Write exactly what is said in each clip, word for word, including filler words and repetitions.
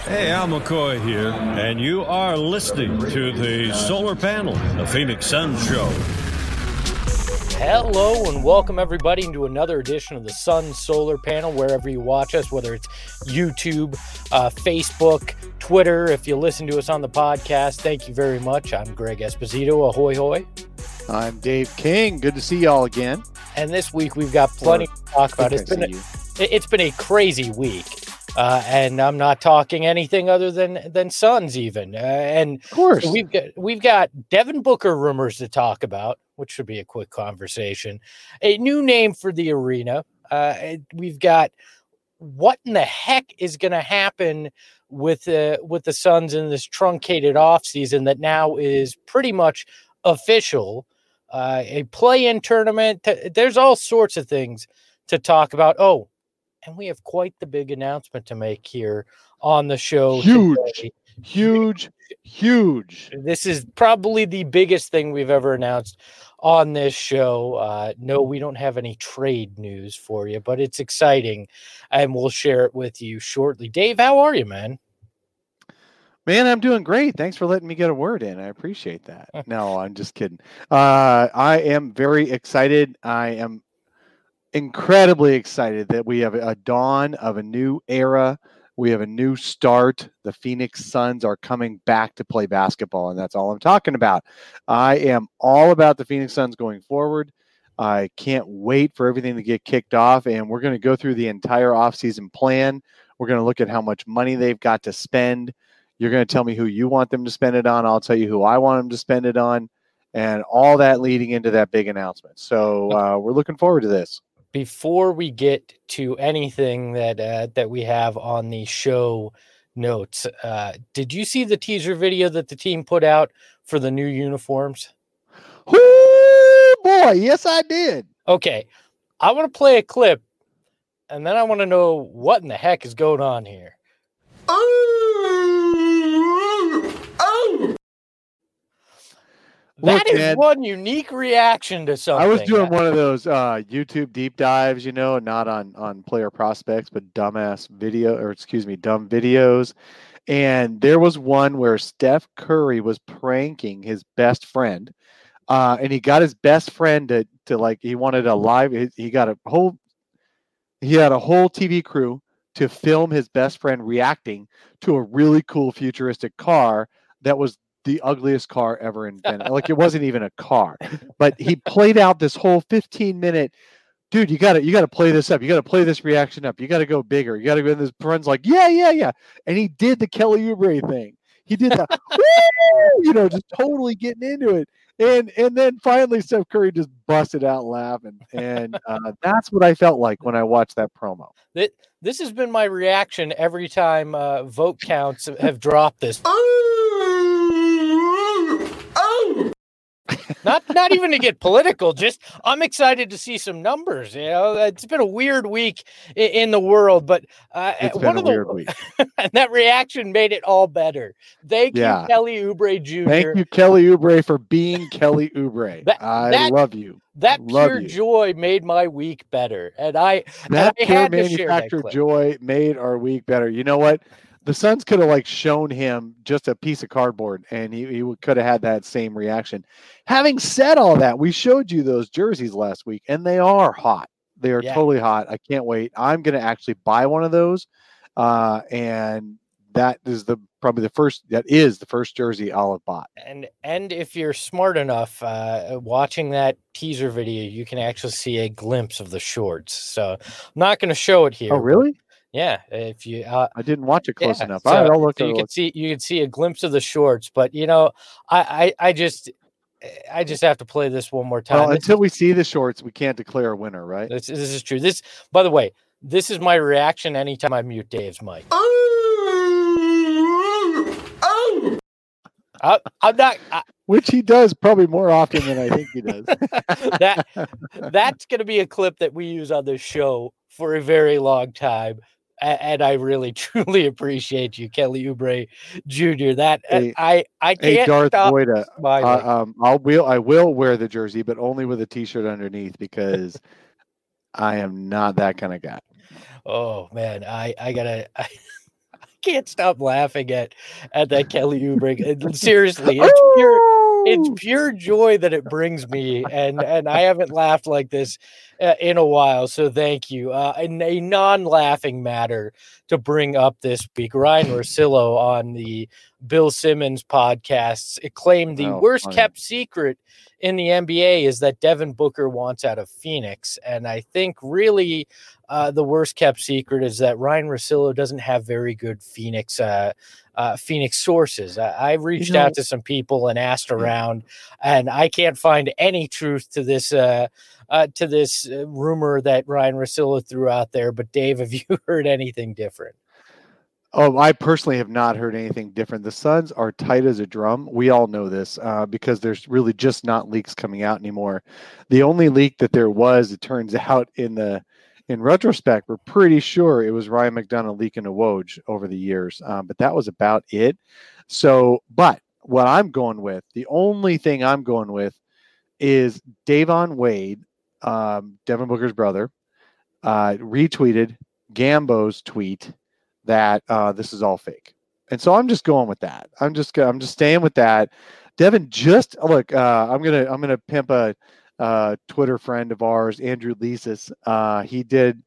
Hey, Al McCoy here, and you are listening to the Solar Panel, the Phoenix Suns Show. Hello and welcome everybody into another edition of the Sun Solar Panel, wherever you watch us, whether it's YouTube, uh, Facebook, Twitter. If you listen to us on the podcast, thank you very much. I'm Greg Esposito. Ahoy, hoy. I'm Dave King. Good to see y'all again. And this week we've got plenty or, to talk about. It's been, a, it's been a crazy week. Uh, and I'm not talking anything other than than Suns even. Uh, and of course, so we've got we've got Devin Booker rumors to talk about, which should be a quick conversation. A new name for the arena. Uh, we've got what in the heck is going to happen with the with the Suns in this truncated offseason that now is pretty much official. Uh, a play-in tournament. There's all sorts of things to talk about. Oh. And we have quite the big announcement to make here on the show. Huge, today. huge, huge. This is probably the biggest thing we've ever announced on this show. Uh, no, we don't have any trade news for you, but it's exciting, and we'll share it with you shortly. Dave, how are you, man? Man, I'm doing great. Thanks for letting me get a word in. I appreciate that. No, I'm just kidding. Uh, I am very excited. I am incredibly excited that we have a dawn of a new era. We have a new start. The Phoenix Suns are coming back to play basketball, and that's all I'm talking about. I am all about the Phoenix Suns going forward. I can't wait for everything to get kicked off, and we're going to go through the entire offseason plan. We're going to look at how much money they've got to spend. You're going to tell me who you want them to spend it on. I'll tell you who I want them to spend it on, and all that leading into that big announcement. So uh, we're looking forward to this. Before we get to anything that uh, that we have on the show notes, uh, did you see the teaser video that the team put out for the new uniforms? Ooh, boy, yes, I did. Okay, I want to play a clip, and then I want to know what in the heck is going on here. That Look, is man, one unique reaction to something. I was doing one of those uh, YouTube deep dives, you know, not on, on player prospects, but dumbass video, or excuse me, dumb videos. And there was one where Steph Curry was pranking his best friend. Uh, and he got his best friend to, to like, he wanted a live, he got a whole, he had a whole T V crew to film his best friend reacting to a really cool futuristic car that was the ugliest car ever invented. Like, it wasn't even a car, but he played out this whole fifteen minute, dude, you gotta, you gotta play this up. You gotta play this reaction up. You gotta go bigger. You gotta go. And his friend's like, yeah, yeah, yeah. And he did the Kelly Oubre thing. He did that, you know, just totally getting into it. And, and then finally Steph Curry just busted out laughing. And uh, that's what I felt like when I watched that promo. This has been my reaction every time uh, vote counts have dropped this. Not not even to get political, just I'm excited to see some numbers. You know, it's been a weird week in, in the world, but uh, it's one been of a weird the week. And that reaction made it all better. Thank yeah. you, Kelly Oubre Junior Thank you, Kelly Oubre, for being Kelly Oubre. That, I that, love you. That love pure you. joy made my week better, and I that and I pure had manufactured joy made our week better. You know what? The Suns could have like shown him just a piece of cardboard and he, he could have had that same reaction. Having said all that, we showed you those jerseys last week and they are hot. They are yeah. totally hot. I can't wait. I'm going to actually buy one of those. Uh, and that is the, probably the first, that is the first jersey I'll have bought. And, and if you're smart enough, uh, watching that teaser video, you can actually see a glimpse of the shorts. So I'm not going to show it here. Oh, really? Yeah, if you, uh, I didn't watch it close yeah, enough. So, All right, I'll look. So you I'll can look. see, you can see a glimpse of the shorts, but you know, I, I, I just, I just have to play this one more time. Well, this until is, we see the shorts, we can't declare a winner, right? This, this is true. This, by the way, this is my reaction anytime I mute Dave's mic. I, I'm not. I, Which he does probably more often than I think he does. that that's going to be a clip that we use on this show for a very long time, and, and I really truly appreciate you, Kelly Oubre Junior That hey, I I can't hey Darth stop Boyda, smiling. uh, um, I'll will I will wear the jersey, but only with a T-shirt underneath because I am not that kind of guy. Oh man, I I gotta. I, can't stop laughing at at that Kelly Oubre. Seriously, it's pure it's pure joy that it brings me, and and I haven't laughed like this uh, in a while. So thank you. Uh, in a non-laughing matter to bring up this week, Ryan Russillo on the Bill Simmons podcasts it claimed the Oh, worst funny. kept secret in the N B A is that Devin Booker wants out of Phoenix, and I think really. Uh, the worst kept secret is that Ryan Russillo doesn't have very good Phoenix uh, uh, Phoenix sources. I, I reached You know- out to some people and asked around, and I can't find any truth to this uh, uh, to this uh, rumor that Ryan Russillo threw out there. But Dave, have you heard anything different? Oh, I personally have not heard anything different. The Suns are tight as a drum. We all know this uh, because there's really just not leaks coming out anymore. The only leak that there was, it turns out, in the in retrospect, we're pretty sure it was Ryan McDonough leaking a Woj over the years, um, but that was about it. So, but what I'm going with, the only thing I'm going with, is Davon Wade, um, Devin Booker's brother, uh, retweeted Gambo's tweet that uh, this is all fake, and so I'm just going with that. I'm just I'm just staying with that. Devin, just look. Uh, I'm gonna I'm gonna pimp a uh, Twitter friend of ours, Andrew Leasis. Uh, he did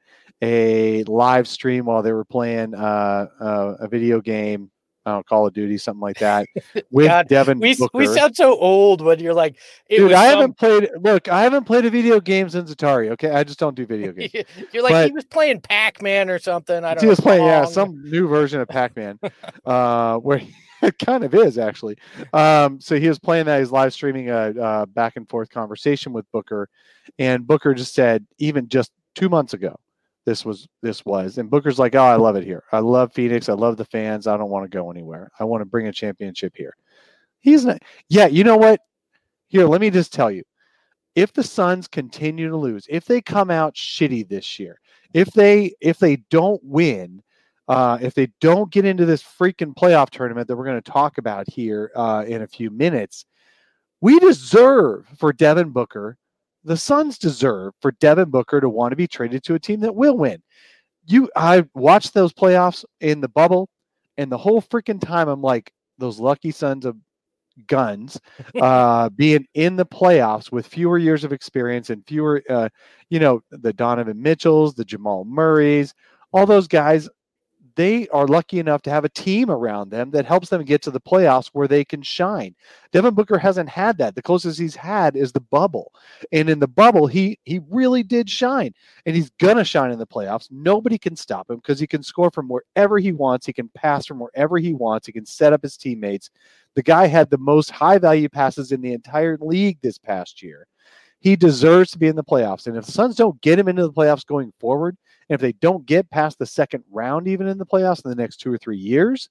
a live stream while they were playing uh, uh, a video game, uh, Call of Duty, something like that, with God, Devin we Booker. we sound so old when you're like, it Dude, was I some- haven't played. Look, I haven't played a video game since Atari. Okay, I just don't do video games. You're like But- he was playing Pac-Man or something. I don't He know. was playing, yeah, Pong. some new version of Pac-Man, uh, where he, it kind of is actually. Um, so he was playing that. He's live streaming a, a back and forth conversation with Booker, and Booker just said, even just two months ago, this was this was, and Booker's like, "Oh, I love it here. I love Phoenix. I love the fans. I don't want to go anywhere. I want to bring a championship here." He's not. Yeah, you know what? Here, let me just tell you. If the Suns continue to lose, if they come out shitty this year, if they if they don't win, uh, if they don't get into this freaking playoff tournament that we're going to talk about here uh, in a few minutes, we deserve for Devin Booker, the Suns deserve for Devin Booker to want to be traded to a team that will win. You, I watched those playoffs in the bubble, and the whole freaking time I'm like, those lucky sons of guns uh being in the playoffs with fewer years of experience and fewer uh you know the Donovan Mitchells, the Jamal Murrays, all those guys, they are lucky enough to have a team around them that helps them get to the playoffs where they can shine. Devin Booker hasn't had that. The closest he's had is the bubble, and in the bubble he he really did shine, and he's gonna shine in the playoffs. Nobody can stop him because he can score from wherever he wants. He can pass from wherever he wants. He can set up his teammates. The guy had the most high value passes in the entire league this past year. He deserves to be in the playoffs. And if the Suns don't get him into the playoffs going forward, and if they don't get past the second round, even in the playoffs in the next two or three years,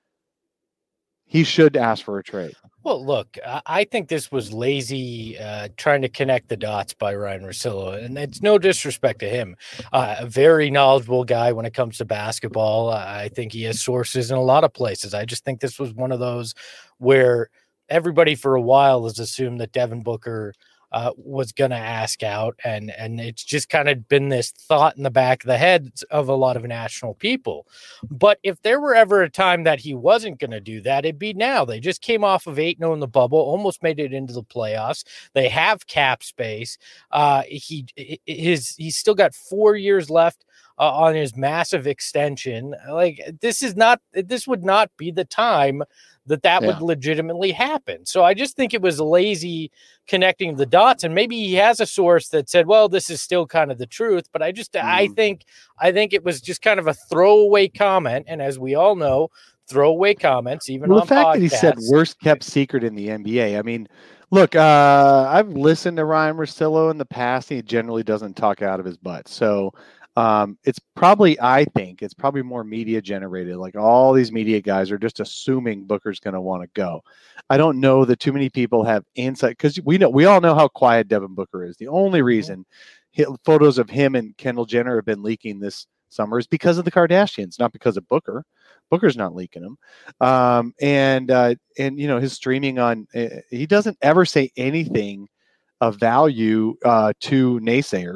he should ask for a trade. Well, look, I- I think this was lazy uh, trying to connect the dots by Ryan Russillo, and it's no disrespect to him. Uh, a very knowledgeable guy when it comes to basketball. Uh, I think he has sources in a lot of places. I just think this was one of those where everybody for a while has assumed that Devin Booker uh, was going to ask out, and and it's just kind of been this thought in the back of the heads of a lot of national people. But if there were ever a time that he wasn't going to do that, it'd be now. They just came off of eight and oh in the bubble, almost made it into the playoffs. They have cap space. Uh, he his he's still got four years left uh, on his massive extension. Like this is not this would not be the time that that Yeah. would legitimately happen. So I just think it was lazy connecting the dots, and maybe he has a source that said, well, this is still kind of the truth. But I just, mm. I think, I think it was just kind of a throwaway comment. And as we all know, throwaway comments, even well, on the fact podcasts, that he said worst kept secret in the N B A. I mean, look, uh, I've listened to Ryan Russillo in the past, and he generally doesn't talk out of his butt. So um, it's probably, I think it's probably more media generated. Like all these media guys are just assuming Booker's going to want to go. I don't know that too many people have insight, because we know, we all know how quiet Devin Booker is. The only reason he, photos of him and Kendall Jenner have been leaking this summer is because of the Kardashians, not because of Booker. Booker's not leaking them. Um, and, uh, and, you know, his streaming on, uh, he doesn't ever say anything of value uh, to naysayers.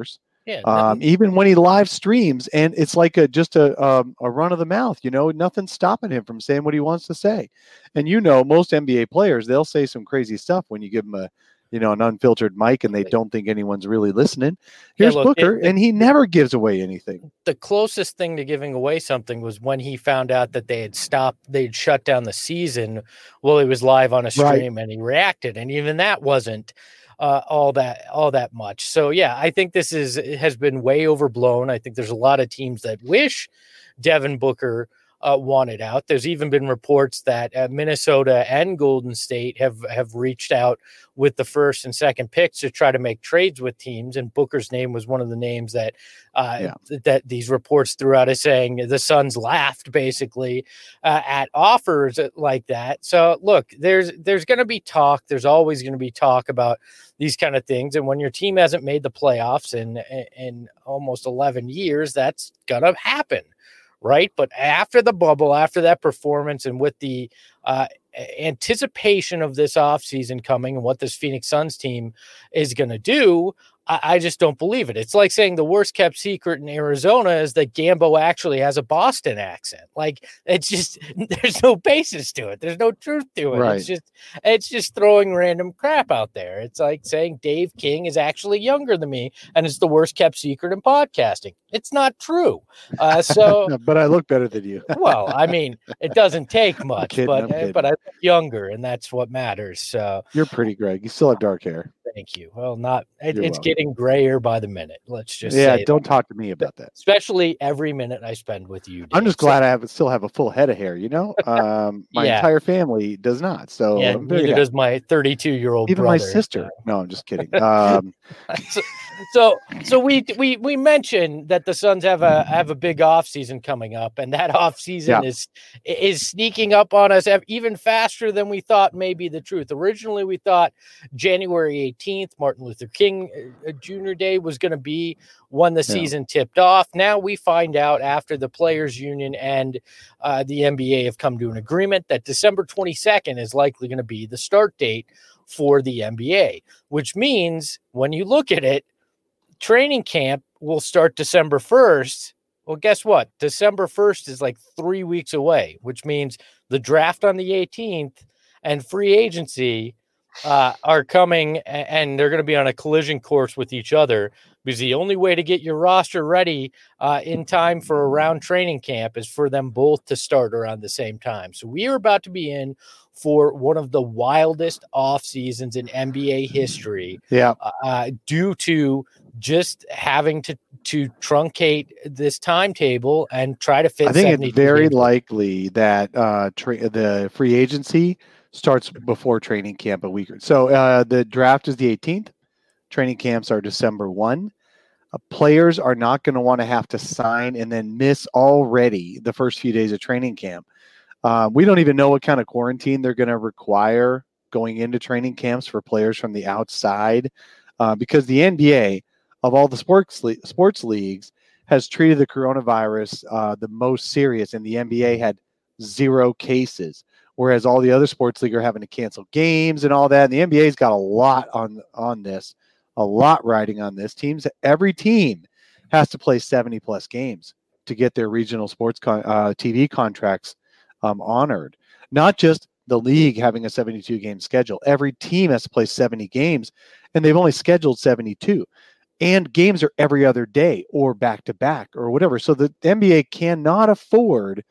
Yeah. Um, even when he live streams, and it's like a just a um, a run of the mouth, you know, nothing's stopping him from saying what he wants to say. And you know, most N B A players, they'll say some crazy stuff when you give them a, you know, an unfiltered mic, and they don't think anyone's really listening. Here's yeah, look, Booker, it, the, and he never gives away anything. The closest thing to giving away something was when he found out that they had stopped, they'd shut down the season while he was live on a stream, right. And he reacted, and even that wasn't uh, all that all that much. So yeah, I think this is has been way overblown. I think there's a lot of teams that wish Devin Booker Uh, wanted out. There's even been reports that uh, Minnesota and Golden State have have reached out with the first and second picks to try to make trades with teams, and Booker's name was one of the names that uh, yeah. th- that these reports threw out as saying the Suns laughed basically uh, at offers like that. So look, there's there's going to be talk. There's always going to be talk about these kind of things, and when your team hasn't made the playoffs in in almost eleven years, that's gonna happen. Right. But after the bubble, after that performance, and with the uh, anticipation of this offseason coming and what this Phoenix Suns team is going to do, I, I just don't believe it. It's like saying the worst kept secret in Arizona is that Gambo actually has a Boston accent. Like, it's just, there's no basis to it. There's no truth to it. Right. It's just, it's just throwing random crap out there. It's like saying Dave King is actually younger than me and it's the worst kept secret in podcasting. It's not true. Uh, so, but I look better than you. Well, I mean, it doesn't take much, kidding, but uh, but I look younger, and that's what matters. So you're pretty, Greg. You still have dark hair. Thank you. Well, not it, it's welcome. Getting grayer by the minute. Let's just yeah. Say don't that. Talk to me about that. Especially every minute I spend with you, Dave. I'm just glad so, I have still have a full head of hair. You know, um, my yeah. entire family does not. So yeah, neither happy. Does my thirty-two year old even brother, my sister. So. No, I'm just kidding. Um, so, so so we we we mentioned that the Suns have a have a big off season coming up, and that off season yeah. is is sneaking up on us even faster than we thought may be the truth. Originally, we thought January eighteenth, Martin Luther King Junior Day, was going to be when the yeah. season tipped off. Now we find out after the Players Union and uh, the N B A have come to an agreement that December twenty-second is likely going to be the start date for the N B A, which means when you look at it, training camp will start December first. Well, guess what? December first is like three weeks away, which means the draft on the eighteenth and free agency uh, are coming, and they're going to be on a collision course with each other, because the only way to get your roster ready uh, in time for around training camp is for them both to start around the same time. So we are about to be in for one of the wildest off seasons in N B A history. Yeah, uh, due to just having to to truncate this timetable and try to fit. I think it's very games. likely that uh, tra- the free agency starts before training camp a week or so. Uh, the draft is the eighteenth. Training camps are December first. Uh, players are not going to want to have to sign and then miss already the first few days of training camp. Uh, we don't even know what kind of quarantine they're going to require going into training camps for players from the outside, uh, because the N B A, of all the sports le- sports leagues, has treated the coronavirus uh, the most serious, and the N B A had zero cases, whereas all the other sports leagues are having to cancel games and all that. And the N B A's got a lot on on this, a lot riding on this. Teams, every team has to play seventy plus games to get their regional sports con- uh, T V contracts um, honored. Not just the league having a seventy-two game schedule. Every team has to play seventy games, and they've only scheduled seventy-two. And games are every other day or back to back or whatever. So the N B A cannot afford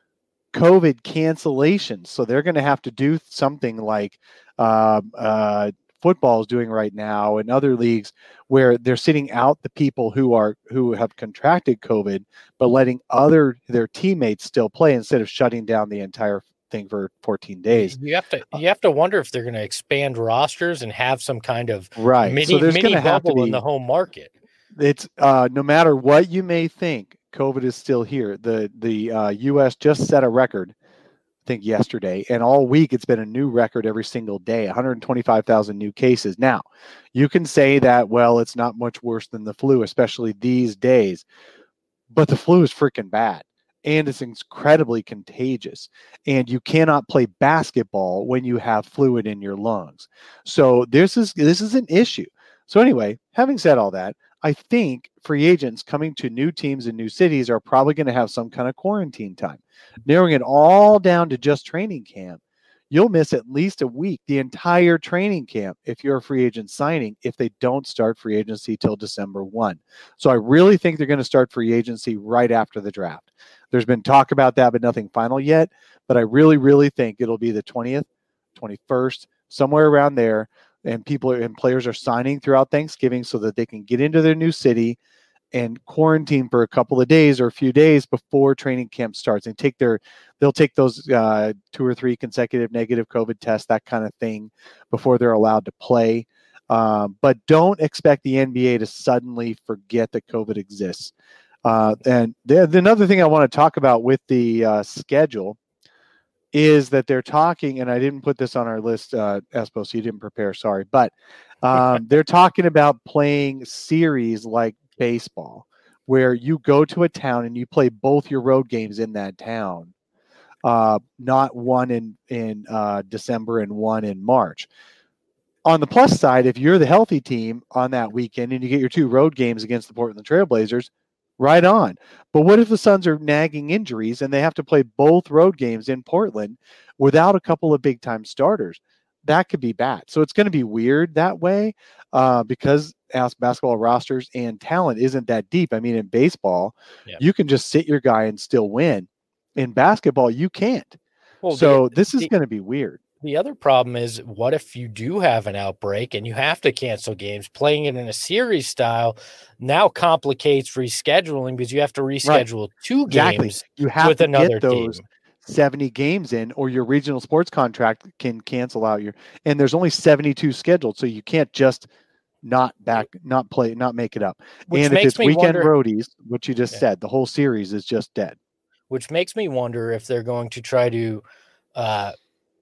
COVID cancellations. So they're going to have to do something like uh, uh, football is doing right now, and other leagues, where they're sitting out the people who are who have contracted COVID, but letting other their teammates still play instead of shutting down the entire thing for fourteen days. You have to you have to wonder if they're going to expand rosters and have some kind of right. mini, so there's mini bubble have to be, in the home market. It's uh, no matter what you may think, COVID is still here. The the uh, U S just set a record, I think yesterday, and all week it's been a new record every single day, one hundred twenty-five thousand new cases. Now, you can say that, well, it's not much worse than the flu, especially these days, but the flu is freaking bad, and it's incredibly contagious, and you cannot play basketball when you have fluid in your lungs. So this is this is an issue. So anyway, having said all that, I think free agents coming to new teams and new cities are probably going to have some kind of quarantine time. Narrowing it all down to just training camp, you'll miss at least a week, the entire training camp, if you're a free agent signing, if they don't start free agency till December first. So I really think they're going to start free agency right after the draft. There's been talk about that, but nothing final yet. But I really, really think it'll be the twentieth, twenty-first, somewhere around there. And people are, and players are signing throughout Thanksgiving so that they can get into their new city and quarantine for a couple of days or a few days before training camp starts, and take their, they'll take those uh, two or three consecutive negative COVID tests, that kind of thing, before they're allowed to play. Um, but don't expect the N B A to suddenly forget that COVID exists. Uh, and the, the another thing I want to talk about with the uh, schedule is that they're talking, and I didn't put this on our list, uh, Espo, so you didn't prepare, sorry, but um, they're talking about playing series like baseball, where you go to a town and you play both your road games in that town, uh, not one in, in uh, December and one in March. On the plus side, if you're the healthy team on that weekend and you get your two road games against the Portland Trailblazers, right on. But what if the Suns are nagging injuries and they have to play both road games in Portland without a couple of big-time starters? That could be bad. So it's going to be weird that way uh, because as basketball rosters and talent isn't that deep. I mean, in baseball, yeah. you can just sit your guy and still win. In basketball, you can't. Well, so the, this is going to be weird. The other problem is, what if you do have an outbreak and you have to cancel games? Playing it in a series style now complicates rescheduling because you have to reschedule right. two exactly. games you have with to another get those team. seventy games in, or your regional sports contract can cancel out your, and there's only seventy-two scheduled. So you can't just not back, not play, not make it up. Which and if it's weekend wonder, roadies, what you just yeah. said, the whole series is just dead. Which makes me wonder if they're going to try to, uh,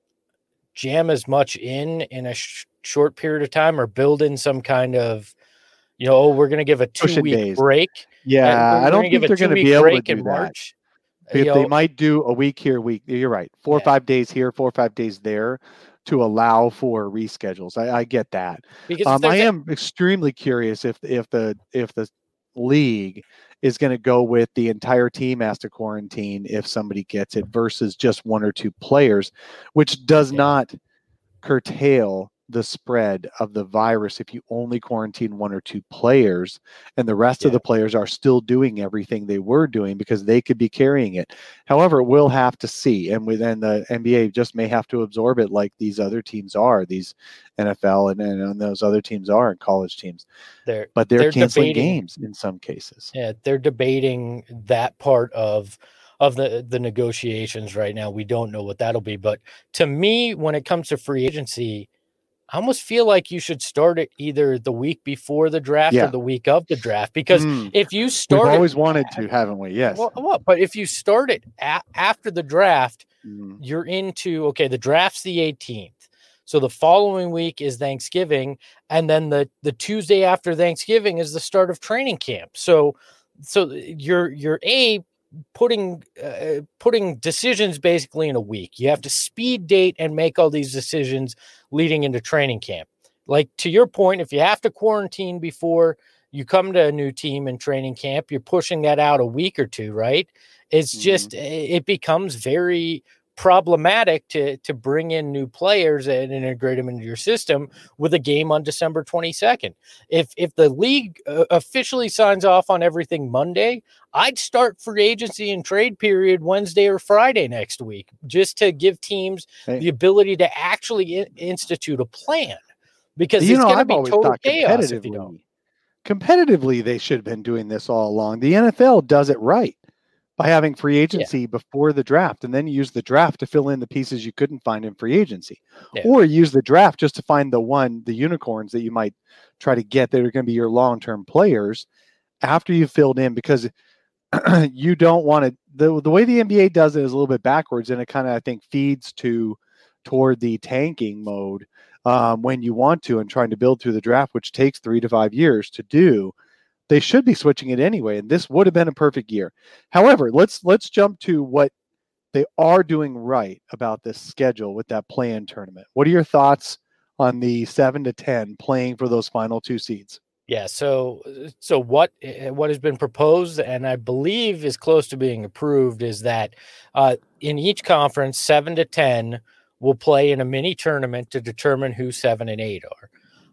jam as much in in a sh- short period of time, or build in some kind of, you know, oh, we're going to give a two week days. break. Yeah, I don't think they're going to be able to do that. March. They, they might do a week here, week. You're right. Four yeah. or five days here, four or five days there, to allow for reschedules. I, I get that. Because um, I am a- extremely curious if if the if the league is going to go with the entire team has to quarantine if somebody gets it versus just one or two players, which does yeah. not curtail the spread of the virus if you only quarantine one or two players and the rest yeah. of the players are still doing everything they were doing, because they could be carrying it. However, we'll have to see. And within the N B A just may have to absorb it like these other teams are, these N F L and, and those other teams are, and college teams. They're, but they're, they're canceling debating, games in some cases. Yeah, they're debating that part of of the, the negotiations right now. We don't know what that'll be. But to me, when it comes to free agency, I almost feel like you should start it either the week before the draft yeah. or the week of the draft, because mm. if you start, we've always it, wanted to, haven't we? Yes. Well, well but if you start it a- after the draft, mm. you're into, okay, the draft's the eighteenth. So the following week is Thanksgiving. And then the, the Tuesday after Thanksgiving is the start of training camp. So, so you're, you're a putting, uh, putting decisions basically in a week. You have to speed date and make all these decisions leading into training camp. Like, to your point, if you have to quarantine before you come to a new team in training camp, you're pushing that out a week or two, right? It's mm-hmm. just, it becomes very problematic to to bring in new players and integrate them into your system with a game on December twenty-second. If if the league uh, officially signs off on everything Monday, I'd start free agency and trade period Wednesday or Friday next week, just to give teams hey. the ability to actually in- institute a plan, because you it's going to be total chaos if you don't. Competitively, they should have been doing this all along. The N F L does it right by having free agency yeah. before the draft, and then you use the draft to fill in the pieces you couldn't find in free agency, yeah. or use the draft just to find the one, the unicorns that you might try to get that are going to be your long-term players after you've filled in, because you don't want to, the, the way the N B A does it is a little bit backwards, and it kind of, I think, feeds to toward the tanking mode um, when you want to, and trying to build through the draft, which takes three to five years to do. They should be switching it anyway, and this would have been a perfect year. However, let's let's jump to what they are doing right about this schedule with that play-in tournament. What are your thoughts on the seven to ten playing for those final two seeds? Yeah, so so what eh, what has been proposed, and I believe is close to being approved, is that uh, in each conference, seven to ten will play in a mini tournament to determine who seven and eight are.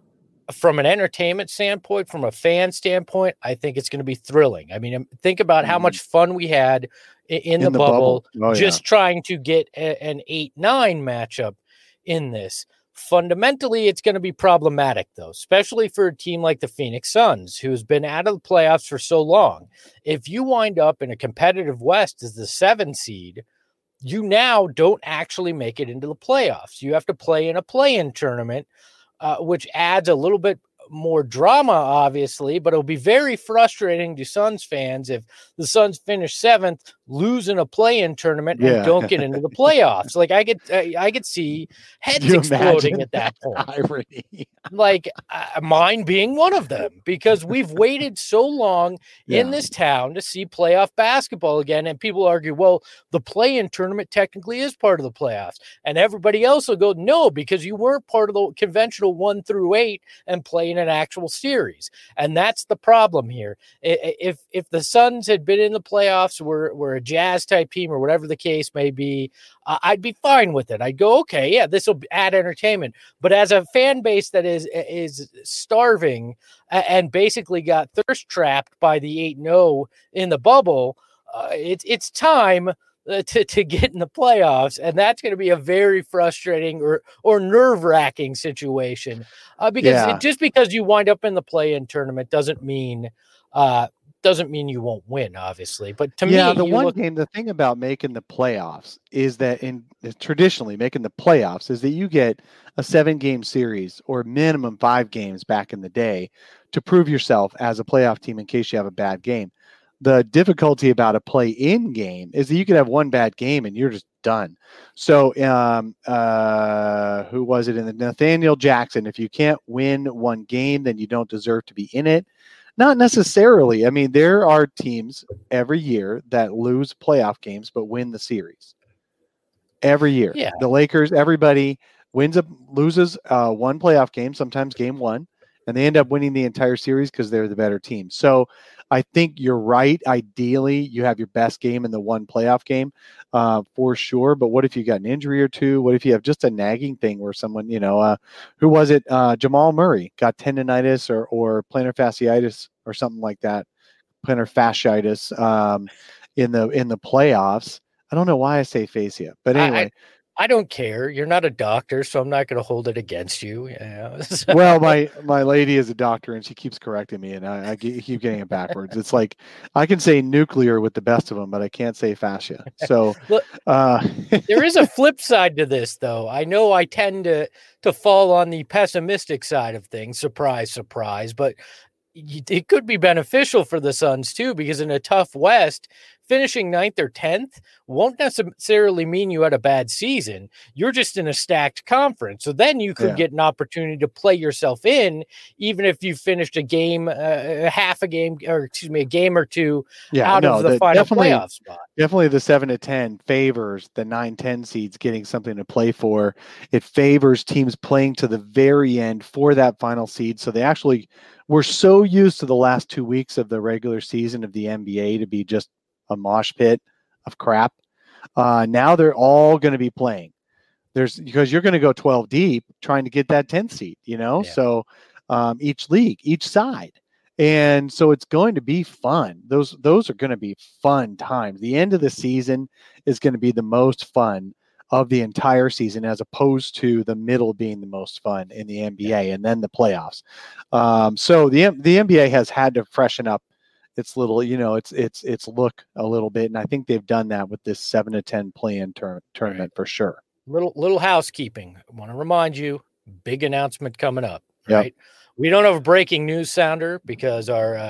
From an entertainment standpoint, from a fan standpoint, I think it's going to be thrilling. I mean, um, think about how Mhm. much fun we had i- in, In the, the bubble, bubble. Oh, yeah. just trying to get a- an eight nine matchup in this. Fundamentally, it's going to be problematic, though, especially for a team like the Phoenix Suns, who's been out of the playoffs for so long. If you wind up in a competitive West as the seven seed, you now don't actually make it into the playoffs. You have to play in a play-in tournament, uh, which adds a little bit more drama, obviously, but it'll be very frustrating to Suns fans if the Suns finish seventh, lose in a play-in tournament, and Yeah. don't get into the playoffs. Like I could, I, I could see heads you exploding imagine at that point. irony? Like uh, mine being one of them, because we've waited so long in Yeah. this town to see playoff basketball again. And people argue, well, the play-in tournament technically is part of the playoffs. And everybody else will go, no, because you weren't part of the conventional one through eight and playing an actual series. And that's the problem here. If if the Suns had been in the playoffs, were, were a Jazz type team or whatever the case may be, uh, I'd be fine with it. I'd go, okay, yeah, this will add entertainment. But as a fan base that is is starving and basically got thirst trapped by the eight and oh in the bubble, uh, it's it's time uh, to to get in the playoffs, and that's going to be a very frustrating or or nerve wracking situation. Uh, because Yeah. it, just because you wind up in the play-in tournament doesn't mean uh, doesn't mean you won't win, obviously. But to yeah, me, the you one look, game, the thing about making the playoffs is that in traditionally making the playoffs is that you get a seven game series or minimum five games back in the day to prove yourself as a playoff team in case you have a bad game. The difficulty about a play in game is that you could have one bad game and you're just done. So, um, uh, who was it in the Nathaniel Jackson? If you can't win one game, then you don't deserve to be in it. Not necessarily. I mean, there are teams every year that lose playoff games but win the series. Every year. yeah, The Lakers, everybody wins up, loses uh, one playoff game, sometimes game one, and they end up winning the entire series because they're the better team. So I think you're right. Ideally, you have your best game in the one playoff game uh, for sure. But what if you got an injury or two? What if you have just a nagging thing where someone, you know, uh, who was it? Uh, Jamal Murray got tendonitis or, or plantar fasciitis or something like that, plantar fasciitis um, in the in the playoffs. I don't know why I say fascia, but anyway. I, I, I don't care. You're not a doctor, so I'm not going to hold it against you. Yeah. So- Well, my my lady is a doctor, and she keeps correcting me, and I, I ge- keep getting it backwards. It's like I can say nuclear with the best of them, but I can't say fascia. So, Look, uh, there is a flip side to this, though. I know I tend to to fall on the pessimistic side of things. Surprise, surprise, but y- it could be beneficial for the Suns too, because in a tough West, finishing ninth or tenth won't necessarily mean you had a bad season. You're just in a stacked conference. So then you could Yeah. get an opportunity to play yourself in, even if you finished a game, uh, half a game, or excuse me, a game or two yeah, out no, of the, the- final definitely, playoff spot. definitely the seven to ten favors the nine ten seeds getting something to play for. It favors teams playing to the very end for that final seed. So they actually were so used to the last two weeks of the regular season of the N B A to be just a mosh pit of crap. Uh, now they're all going to be playing. There's because you're going to go twelve deep trying to get that tenth seed, you know? Yeah. So um, each league, each side. And so it's going to be fun. Those those are going to be fun times. The end of the season is going to be the most fun of the entire season, as opposed to the middle being the most fun in the N B A, and then the playoffs. Um, so the the N B A has had to freshen up its little, you know, it's it's it's look a little bit, and I think they've done that with this seven to ten play-in tur- tournament for sure. Little little housekeeping. I want to remind you, big announcement coming up. Yep. Right. We don't have a breaking news sounder because our uh,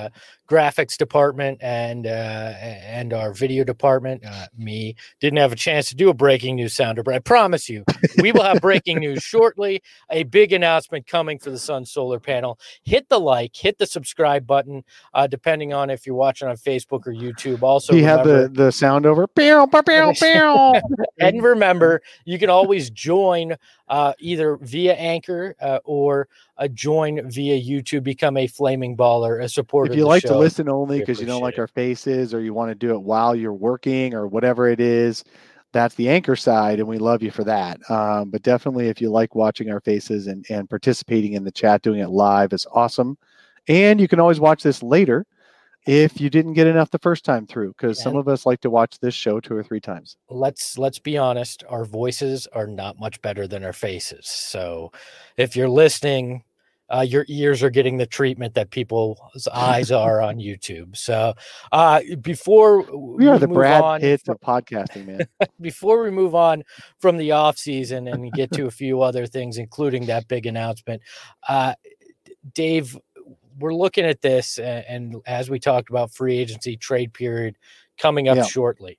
graphics department and uh, and our video department, uh, me, didn't have a chance to do a breaking news sounder, but I promise you, we will have breaking news shortly. A big announcement coming for the Sun Solar Panel. Hit the like, hit the subscribe button, uh, depending on if you're watching on Facebook or YouTube. Also, he had remember, the the sound over. Pew, pew, pew, pew. and remember, you can always join uh, either via Anchor uh, or uh, join via YouTube. Become a flaming baller, a supporter. If you of the like show. to listen only because you don't appreciate like it. our faces, or you want to do it while you're working or whatever it is, that's the Anchor side, and we love you for that. Um, but definitely, if you like watching our faces and, and participating in the chat, doing it live is awesome. And you can always watch this later if you didn't get enough the first time through, because some And- of us like to watch this show two or three times. let's let's be honest, our voices are not much better than our faces. So if you're listening, uh, your ears are getting the treatment that people's eyes are on YouTube. So uh, before We are the move Brad on Pitt fro- of podcasting, man. before we move on from the off season and get to a few other things, including that big announcement, uh, Dave, we're looking at this, and, and as we talked about, free agency trade period coming up Yeah. shortly.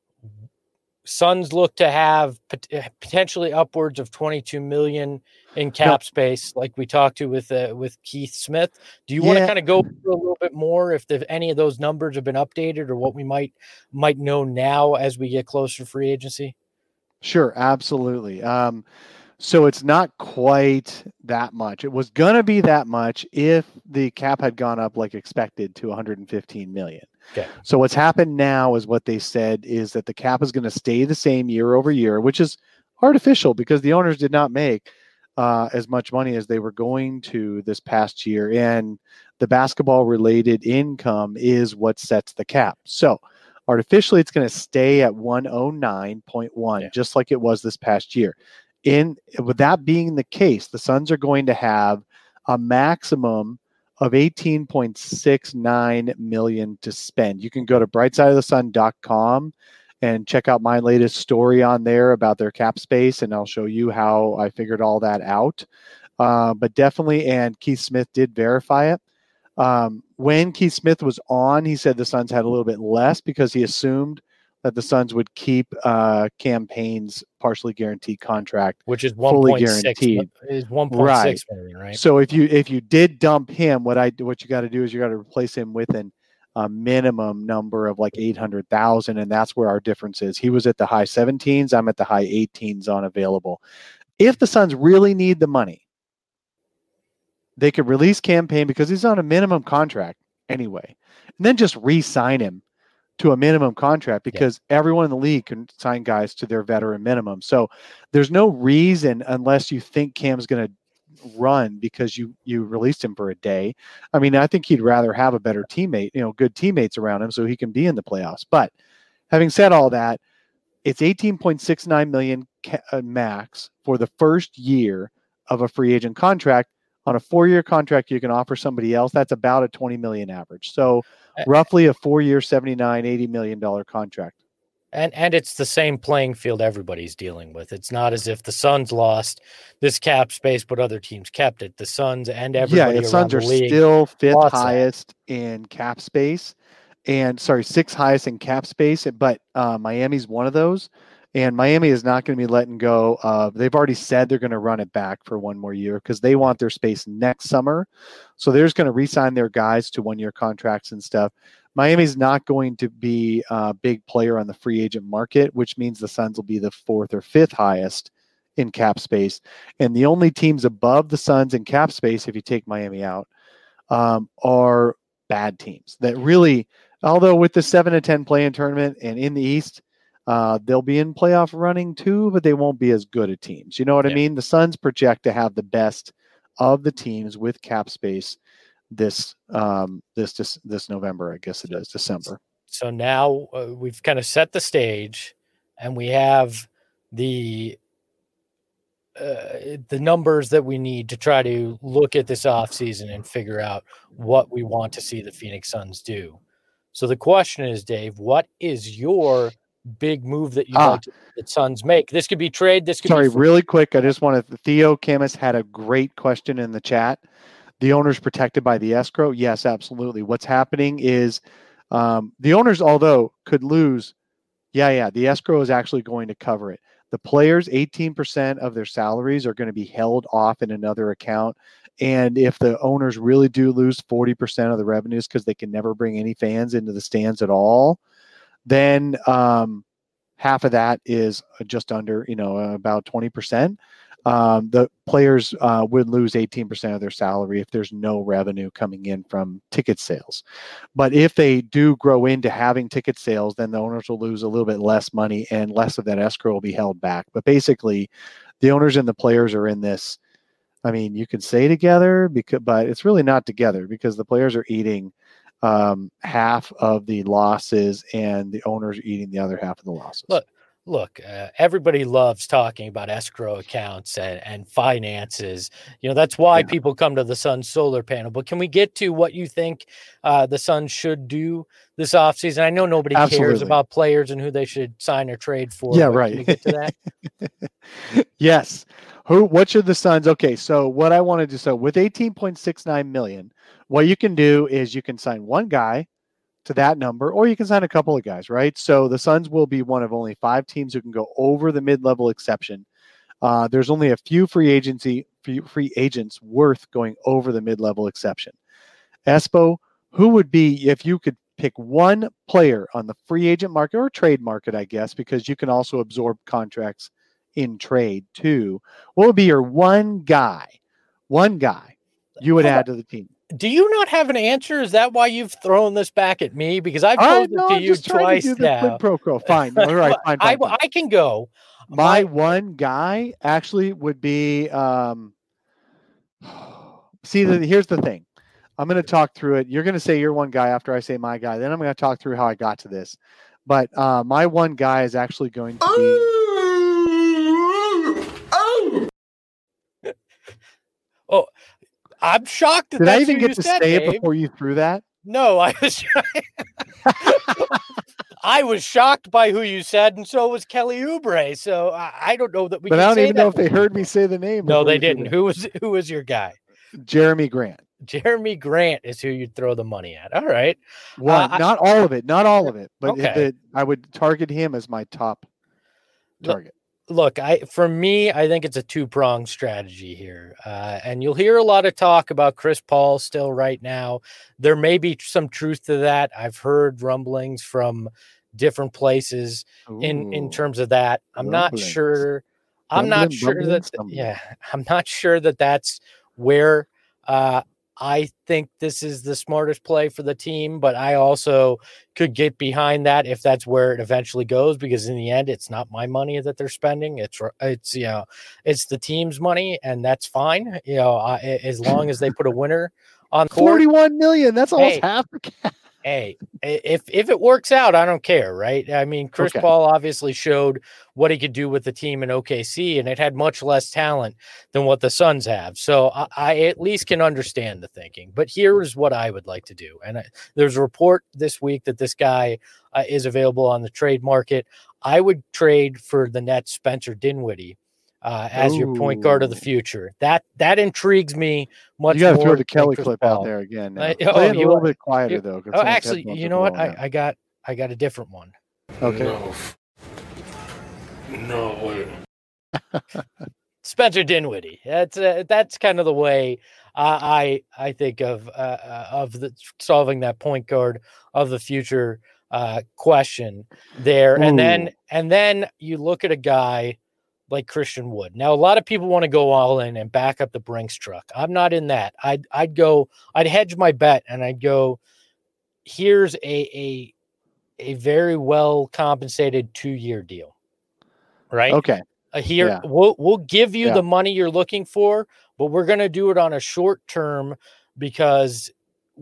Suns look to have pot- potentially upwards of twenty-two million in cap Yep. space, like we talked to with uh, with Keith Smith. Do you want to Yeah. kind of go through a little bit more if the, any of those numbers have been updated, or what we might might know now as we get closer to free agency? Sure, absolutely. Um, so it's not quite that much. It was going to be that much if the cap had gone up like expected to one hundred fifteen million. Okay. So what's happened now is what they said is that the cap is going to stay the same year over year, which is artificial because the owners did not make uh, as much money as they were going to this past year. And the basketball related income is what sets the cap. So artificially, it's going to stay at one oh nine point one, Yeah. just like it was this past year. In with that being the case, the Suns are going to have a maximum of eighteen point six nine million to spend. You can go to bright side of the sun dot com and check out my latest story on there about their cap space, and I'll show you how I figured all that out. Uh, but definitely, and Keith Smith did verify it. Um, when Keith Smith was on, he said the Suns had a little bit less because he assumed that the Suns would keep uh, Cam Payne's partially guaranteed contract. Which is one Fully point six guaranteed. is one point six million, right? So if you if you did dump him, what I what you got to do is you got to replace him with an a minimum number of like eight hundred thousand, and that's where our difference is. He was at the high seventeens. I'm at the high eighteens on available. If the Suns really need the money, they could release Cam Payne because he's on a minimum contract anyway, and then just re-sign him to a minimum contract because yeah. everyone in the league can sign guys to their veteran minimum. So there's no reason, unless you think Cam's going to run because you you released him for a day. I mean, I think he'd rather have a better teammate, you know, good teammates around him so he can be in the playoffs. But having said all that, it's eighteen point six nine million ca- uh, max for the first year of a free agent contract. On a four-year contract, you can offer somebody else. That's about a twenty million average. So roughly a four-year, seventy-nine, eighty million dollars contract. And and it's the same playing field everybody's dealing with. It's not as if the Suns lost this cap space, but other teams kept it. The Suns and everybody yeah, the Suns the are league still fifth lost highest that. in cap space, and sorry, sixth highest in cap space. But uh, Miami's one of those, and Miami is not going to be letting go of. They've already said they're going to run it back for one more year because they want their space next summer. So they're just going to re-sign their guys to one-year contracts and stuff. Miami's not going to be a big player on the free agent market, which means the Suns will be the fourth or fifth highest in cap space. And the only teams above the Suns in cap space, if you take Miami out, um, are bad teams that really, although with the seven to ten play-in tournament and in the East, uh, they'll be in playoff running too, but they won't be as good at teams. You know what yeah. I mean? The Suns project to have the best of the teams with cap space this um this this this November, I guess it is December. So now uh, we've kind of set the stage, and we have the uh, the numbers that we need to try to look at this offseason and figure out what we want to see the Phoenix Suns do. So the question is, Dave, what is your big move that you'd ah. like to, the Suns make? This could be trade. This could sorry, be really quick. I just wanted Theo Camus had a great question in the chat. the owner's protected by the escrow? Yes, absolutely. What's happening is um, the owners, although could lose, yeah, yeah, the escrow is actually going to cover it. The players, eighteen percent of their salaries are going to be held off in another account. And if the owners really do lose forty percent of the revenues because they can never bring any fans into the stands at all, then um, half of that is just under, you know, about twenty percent. Um, the players uh, would lose eighteen percent of their salary if there's no revenue coming in from ticket sales. But if they do grow into having ticket sales, then the owners will lose a little bit less money and less of that escrow will be held back. But basically, the owners and the players are in this. I mean, you could say together, because, but it's really not together because the players are eating um, half of the losses and the owners are eating the other half of the losses. Look. Look, uh, everybody loves talking about escrow accounts and, and finances. You know, that's why yeah. people come to the Sun Solar Panel. But can we get to what you think uh, the Suns should do this offseason? I know nobody Absolutely. cares about players and who they should sign or trade for. Yeah, right. Can we get to that? Yes. Who? What should the Suns? Okay, so what I wanted to so with eighteen point six nine million, what you can do is you can sign one guy to that number, or you can sign a couple of guys, right? So the Suns will be one of only five teams who can go over the mid-level exception. Uh, there's only a few free agency free agents worth going over the mid-level exception. Espo, who would be, if you could pick one player on the free agent market or trade market, I guess, because you can also absorb contracts in trade too, what would be your one guy, one guy you would add to the team? Do you not have an answer? Is that why you've thrown this back at me? Because I've told no, it to I'm you twice to now. Pro quo. Fine. All right. Fine, fine, I, fine. I can go. My, My one guy actually would be. Um, see, the, here's the thing. I'm going to talk through it. You're going to say your one guy after I say my guy. Then I'm going to talk through how I got to this. But uh, my one guy is actually going to be. oh. I'm shocked that Did that's I even who get you to said, say Dave. it before you threw that? No, I was I was shocked by who you said, and so was Kelly Oubre. So I, I don't know that we But can I don't say even know if they heard me say the name. No, they didn't. Who was who was your guy? Jeremy Grant. Jeremy Grant is who you'd throw the money at. All right. One, uh, not I, all of it, not all of it, but okay. it, I would target him as my top target. Look, I for me, I think it's a two-pronged strategy here. Uh, and you'll hear a lot of talk about Chris Paul still right now. There may be some truth to that. I've heard rumblings from different places Ooh, in, in terms of that. I'm rumblings. not sure. I'm rumbling, not sure that, rumbling. yeah, I'm not sure that that's where uh, I think this is the smartest play for the team, but I also could get behind that if that's where it eventually goes, because in the end, it's not my money that they're spending. It's, it's, you know, it's the team's money, and that's fine. You know, uh, as long as they put a winner on court. forty-one million. That's almost hey, half the cap. Hey, if if it works out, I don't care, right? I mean, Chris okay. Paul obviously showed what he could do with the team in O K C, and it had much less talent than what the Suns have. So I, I at least can understand the thinking. But here is what I would like to do. And I, there's a report this week that this guy uh, is available on the trade market. I would trade for the Nets Spencer Dinwiddie uh, as Ooh. your point guard of the future. That that intrigues me much more. You got to throw the Kelly clip Paul. out there again. Now. Uh, Play oh, it a you, little bit quieter you, though. Oh, actually, you know what? I, I got I got a different one. Okay. No, no way. Spencer Dinwiddie. That's uh, that's kind of the way uh, I I think of uh, of the solving that point guard of the future uh, question there. Ooh. And then and then you look at a guy like Christian Wood. Now, a lot of people want to go all in and back up the Brinks truck. I'm not in that. I'd I'd go. I'd hedge my bet and I'd go. Here's a a a very well compensated two year deal. Right. Okay. Uh, here yeah. we'll we'll give you yeah. the money you're looking for, but we're going to do it on a short term because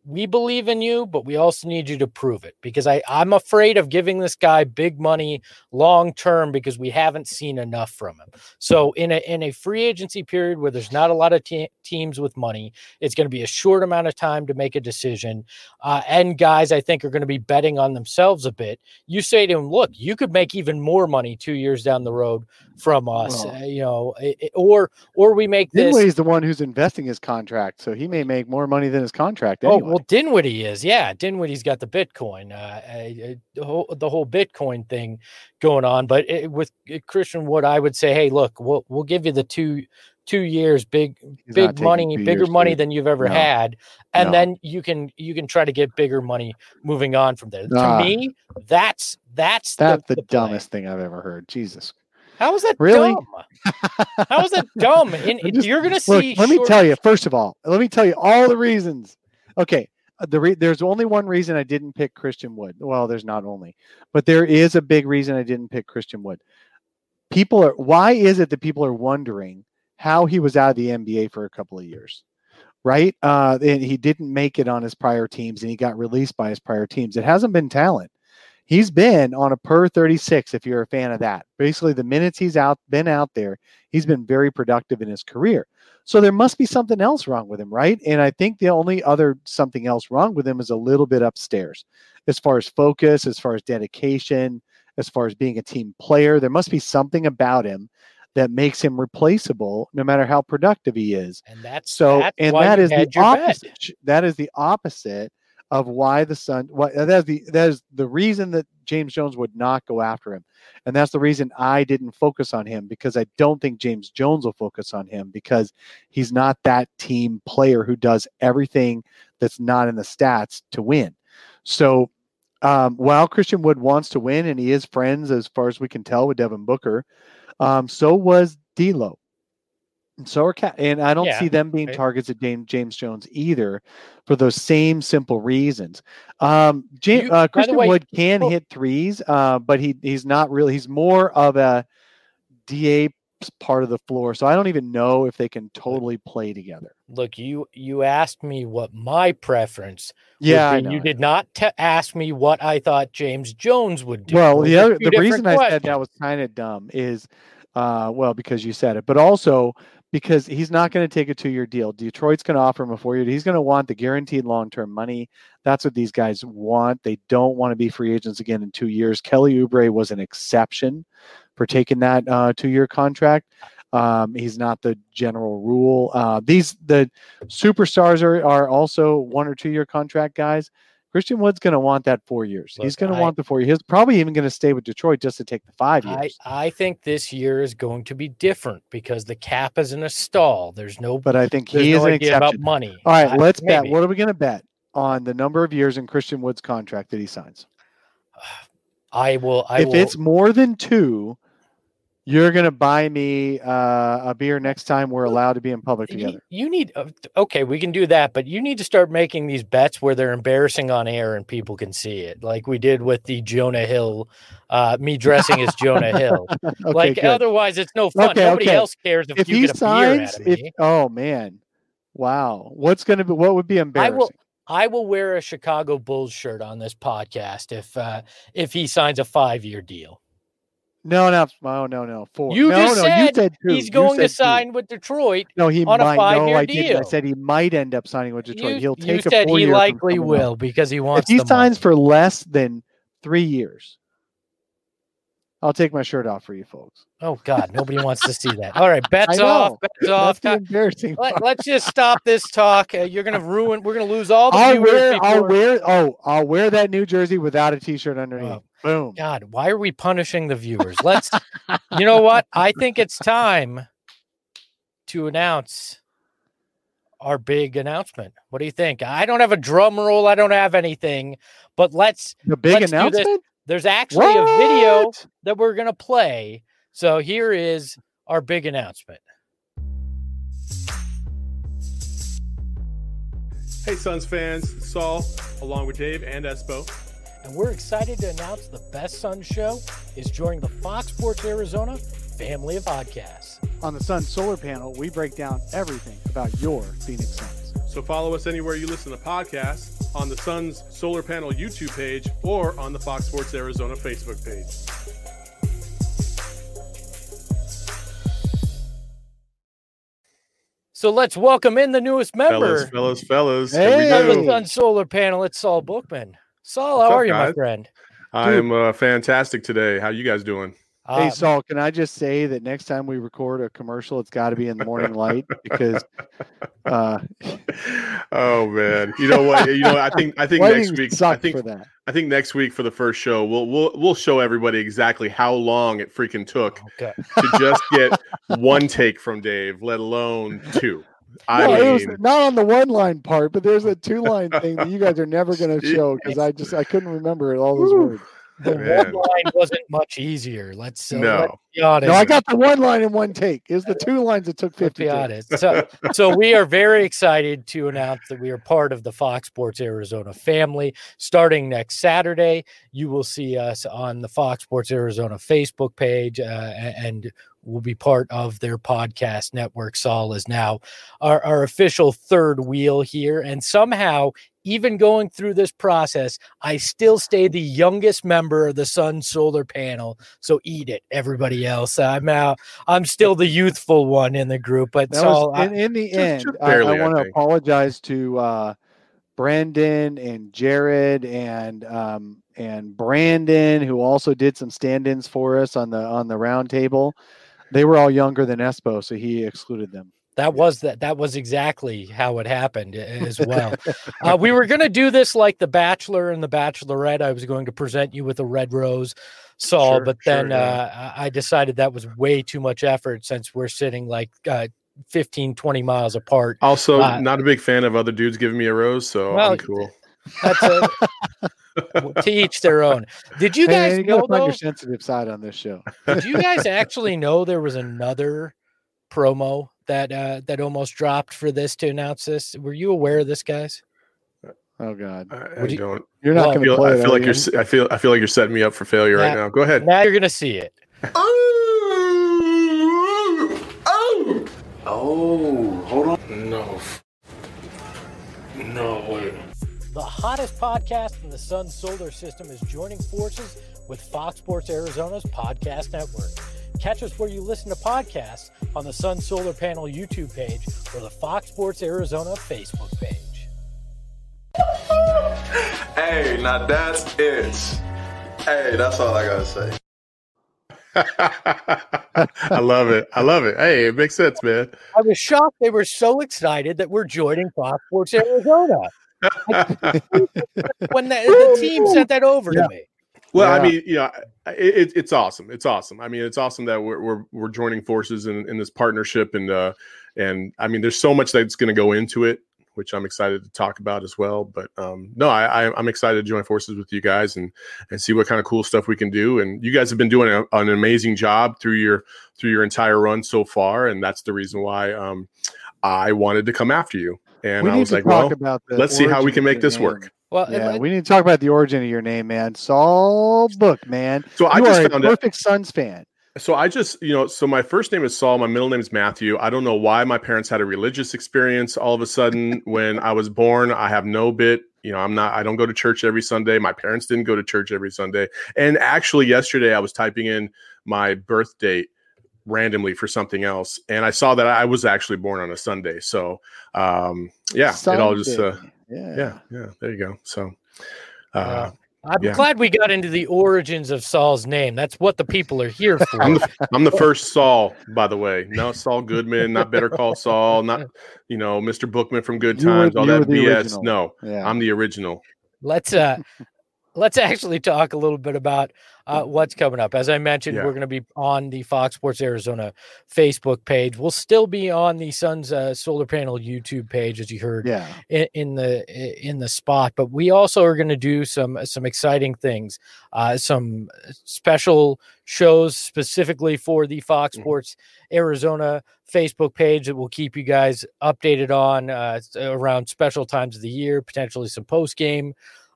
we believe in you, but we also need you to prove it, because I, I'm afraid of giving this guy big money long term because we haven't seen enough from him. So in a in a free agency period where there's not a lot of te- teams with money, it's going to be a short amount of time to make a decision. Uh, and guys, I think, are going to be betting on themselves a bit. You say to him, look, you could make even more money two years down the road from us, Well, uh, you know, it, it- or or we make this. Dinwiddie's the one who's investing his contract, so he may make more money than his contract Oh, anyway. well, Dinwiddie is. Yeah, Dinwiddie's got the Bitcoin, uh, uh, the, whole, the whole Bitcoin thing going on. But it, with Christian Wood, I would say, hey, look, we'll we'll give you the two two years, big He's not big taking money, two bigger years, money dude. than you've ever No. had, and No. then you can you can try to get bigger money moving on from there. Ah. To me, that's that's That's the, the, the play. dumbest thing I've ever heard. Jesus. How is that Really? dumb? How is that dumb? And I'm just- you're gonna Look, see. let me short- tell you, first of all, let me tell you all the reasons. Okay. uh, The re- there's only one reason I didn't pick Christian Wood. Well, there's not only, but there is a big reason I didn't pick Christian Wood. People are, why is it that people are wondering how he was out of the N B A for a couple of years? Right? Uh, and he didn't make it on his prior teams and he got released by his prior teams. It hasn't been talent. He's been on a per thirty-six, if you're a fan of that. Basically, the minutes he's out been out there, he's been very productive in his career. So there must be something else wrong with him, right? And I think the only other something else wrong with him is a little bit upstairs, as far as focus, as far as dedication, as far as being a team player. There must be something about him that makes him replaceable, no matter how productive he is. And that's So, that's and why that you is the had your bet. opposite. That is the opposite of why the Sun. What that is the that is the reason that James Jones would not go after him, and that's the reason I didn't focus on him, because I don't think James Jones will focus on him, because he's not that team player who does everything that's not in the stats to win. So, um, while Christian Wood wants to win, and he is friends, as far as we can tell, with Devin Booker, um, so was D'Lo. And so are Cat, and I don't Yeah, see them being right. targets of James James Jones either, for those same simple reasons. Um, James, You- uh, by the Christian way, Wood can oh. hit threes, uh, but he he's not really. He's more of a D A part of the floor, so I don't even know if they can totally play together. Look, you you asked me what my preference would Yeah, I be. know, You I did not te- ask me what I thought James Jones would do. Well, Those the are other two the reason different I said that questions. was kind of dumb is, uh, well, because you said it, but also because he's not going to take a two-year deal. Detroit's going to offer him a four-year. He's going to want the guaranteed long-term money. That's what these guys want. They don't want to be free agents again in two years. Kelly Oubre was an exception for taking that uh, two-year contract. Um, he's not the general rule. Uh, these the superstars are are also one or two-year contract guys. Christian Wood's going to want that four years. Look, He's going to I- want the four years. He's probably even going to stay with Detroit just to take the five I, years. I think this year is going to be different because the cap is in a stall. There's no But I think there's he is no an idea about exception. money. All right, I- let's bet. maybe. What are we going to bet on the number of years in Christian Wood's contract that he signs? I will. I if will. it's more than two, you're going to buy me uh, a beer next time we're allowed to be in public You, together. you need uh, okay, we can do that, but you need to start making these bets where they're embarrassing on air and people can see it, like we did with the Jonah Hill, uh, me dressing as Jonah Hill. Okay, like good. otherwise, it's no fun. Okay, Nobody okay. else cares if, If you he get a beer signs, out of if me. oh man, wow, what's going to be? What would be I embarrassing? will. I will wear a Chicago Bulls shirt on this podcast if uh, if he signs a five year deal. No, no, oh, no, no, four. You no, just no, said you said two. he's You going to said two. sign with Detroit. No, he on a might. five-year no, I didn't. I deal. said he might end up signing with Detroit. You, He'll you take a said four he year. likely will because he If wants. he the signs money. for less than three years, I'll take my shirt off for you folks. Oh God, nobody wants to see that. All right, bets I know. off, bets That's off. the embarrassing. Let, part. let's just stop this talk. Uh, you're gonna ruin. We're gonna lose all the I'll viewers. wear. I'll before- wear. Oh, I'll wear that New Jersey without a T-shirt underneath. Oh. Boom. God, why are we punishing the viewers? Let's. You know what? I think it's time to announce our big announcement. What do you think? I don't have a drum roll. I don't have anything, but let's. The big let's do this. announcement. There's actually a video What? that we're gonna play. So here is our big announcement. Hey, Suns fans, Saul, along with Dave and Espo. And we're excited to announce the Best Suns Show is joining the Fox Sports Arizona family of podcasts. On the Sun Solar Panel, we break down everything about your Phoenix Suns. So follow us anywhere you listen to podcasts on the Suns Solar Panel YouTube page or on the Fox Sports Arizona Facebook page. So let's welcome in the newest member. Fellas, fellas, fellas. Hey. Here we of go. the Sun Solar Panel. It's Saul Bookman. Saul, how What's up, are you, my guys? friend? I am uh, fantastic today. How you guys doing? Hey, Uh, Saul, can I just say that next time we record a commercial, it's got to be in the morning light because uh, Oh man, you know what? You know, I think I think lighting next week. I sucked think for that. I think next week for the first show, we'll we'll we'll show everybody exactly how long it freaking took okay. to just get one take from Dave, let alone two. I No, it was mean, not on the one line part, but there's a two line thing that you guys are never going to show because I just I couldn't remember all those Woo. words. The Man. one line wasn't much easier. Let's, uh, No. let's be honest. No, I got the one line in one take. It was the two lines that took Let's fifty. be honest. So, so we are very excited to announce that we are part of the Fox Sports Arizona family. Starting next Saturday, you will see us on the Fox Sports Arizona Facebook page, uh, and we'll be part of their podcast network. Saul is now our, our official third wheel here, and somehow, even going through this process, I still stay the youngest member of the Sun Solar Panel. So eat it, everybody else. I'm out. I'm still the youthful one in the group, but That Saul, was, in, in the just- end, just I, barely, I I want to think. apologize to uh, Brendan and Jared and um, and Brandon, who also did some stand-ins for us on the on the round table. They were all younger than Espo, so he excluded them. That was that. That was exactly how it happened as well. uh, we were going to do this like The Bachelor and The Bachelorette. I was going to present you with a red rose, Saul, Sure, but sure, then yeah. uh, I I decided that was way too much effort since we're sitting like uh, fifteen, twenty miles apart. also Uh, not a big fan of other dudes giving me a rose, so Well, I'm cool. That's a, to each their own. Did you Hey, guys man, you gotta know find though? your sensitive side on this show. Did you guys actually know there was another promo that uh, that almost dropped for this to announce this? Were you aware of this, guys? Oh God, I, I Would you- don't. you're not Well, I going to feel, play I it. feel are like you? you're. s- I feel. I feel like you're setting me up for failure right Yeah. now. Go ahead. Now you're gonna see it. Oh, hold on. No. No way. The hottest podcast in the Sun Solar System is joining forces with Fox Sports Arizona's podcast network. Catch us where you listen to podcasts on the Sun Solar Panel YouTube page or the Fox Sports Arizona Facebook page. Hey, now that's it. Hey, that's all I gotta say. I love it. I love it. Hey, it makes sense, man. I was shocked they were so excited that we're joining Fox Sports Arizona when the, the team sent that over Yeah. to me. Well, I Yeah. mean, you know, it, it, it's awesome. It's awesome. I mean, it's awesome that we're we're, we're joining forces in, in this partnership, and uh, and I mean, there's so much that's going to go into it, which I'm excited to talk about as well. But um, no, I, I, I'm excited to join forces with you guys and and see what kind of cool stuff we can do. And you guys have been doing a, an amazing job through your through your entire run so far, and that's the reason why um, I wanted to come after you. And we I need was to like, talk well, about the let's see how we origin can of make your this name. work. Well, Yeah, and- we need to talk about the origin of your name, man. Saul Book, man. So I you just are a found out. perfect Suns fan. So I just, you know, so my first name is Saul. My middle name is Matthew. I don't know why my parents had a religious experience all of a sudden when I was born. I have no bit, you know, I'm not, I don't go to church every Sunday. My parents didn't go to church every Sunday. And actually yesterday I was typing in my birth date randomly for something else. And I saw that I was actually born on a Sunday. So um, yeah, it all just, uh, Sunday. yeah. yeah, yeah, there you go. So uh, I'm Yeah. glad we got into the origins of Saul's name. That's what the people are here for. I'm the, I'm the first Saul, by the way. No Saul Goodman, not Better Call Saul, not, you know, Mister Bookman from Good You were- Times, all you were that the B S. original. No, Yeah. I'm the original. let's uh let's actually talk a little bit about uh, what's coming up. As I mentioned, Yeah. we're going to be on the Fox Sports Arizona Facebook page. We'll still be on the Suns uh, Solar Panel YouTube page, as you heard yeah. in, in the in the spot. But we also are going to do some some exciting things, uh, some special shows specifically for the Fox Mhm. Sports Arizona Facebook page that will keep you guys updated on uh, around special times of the year, potentially some post game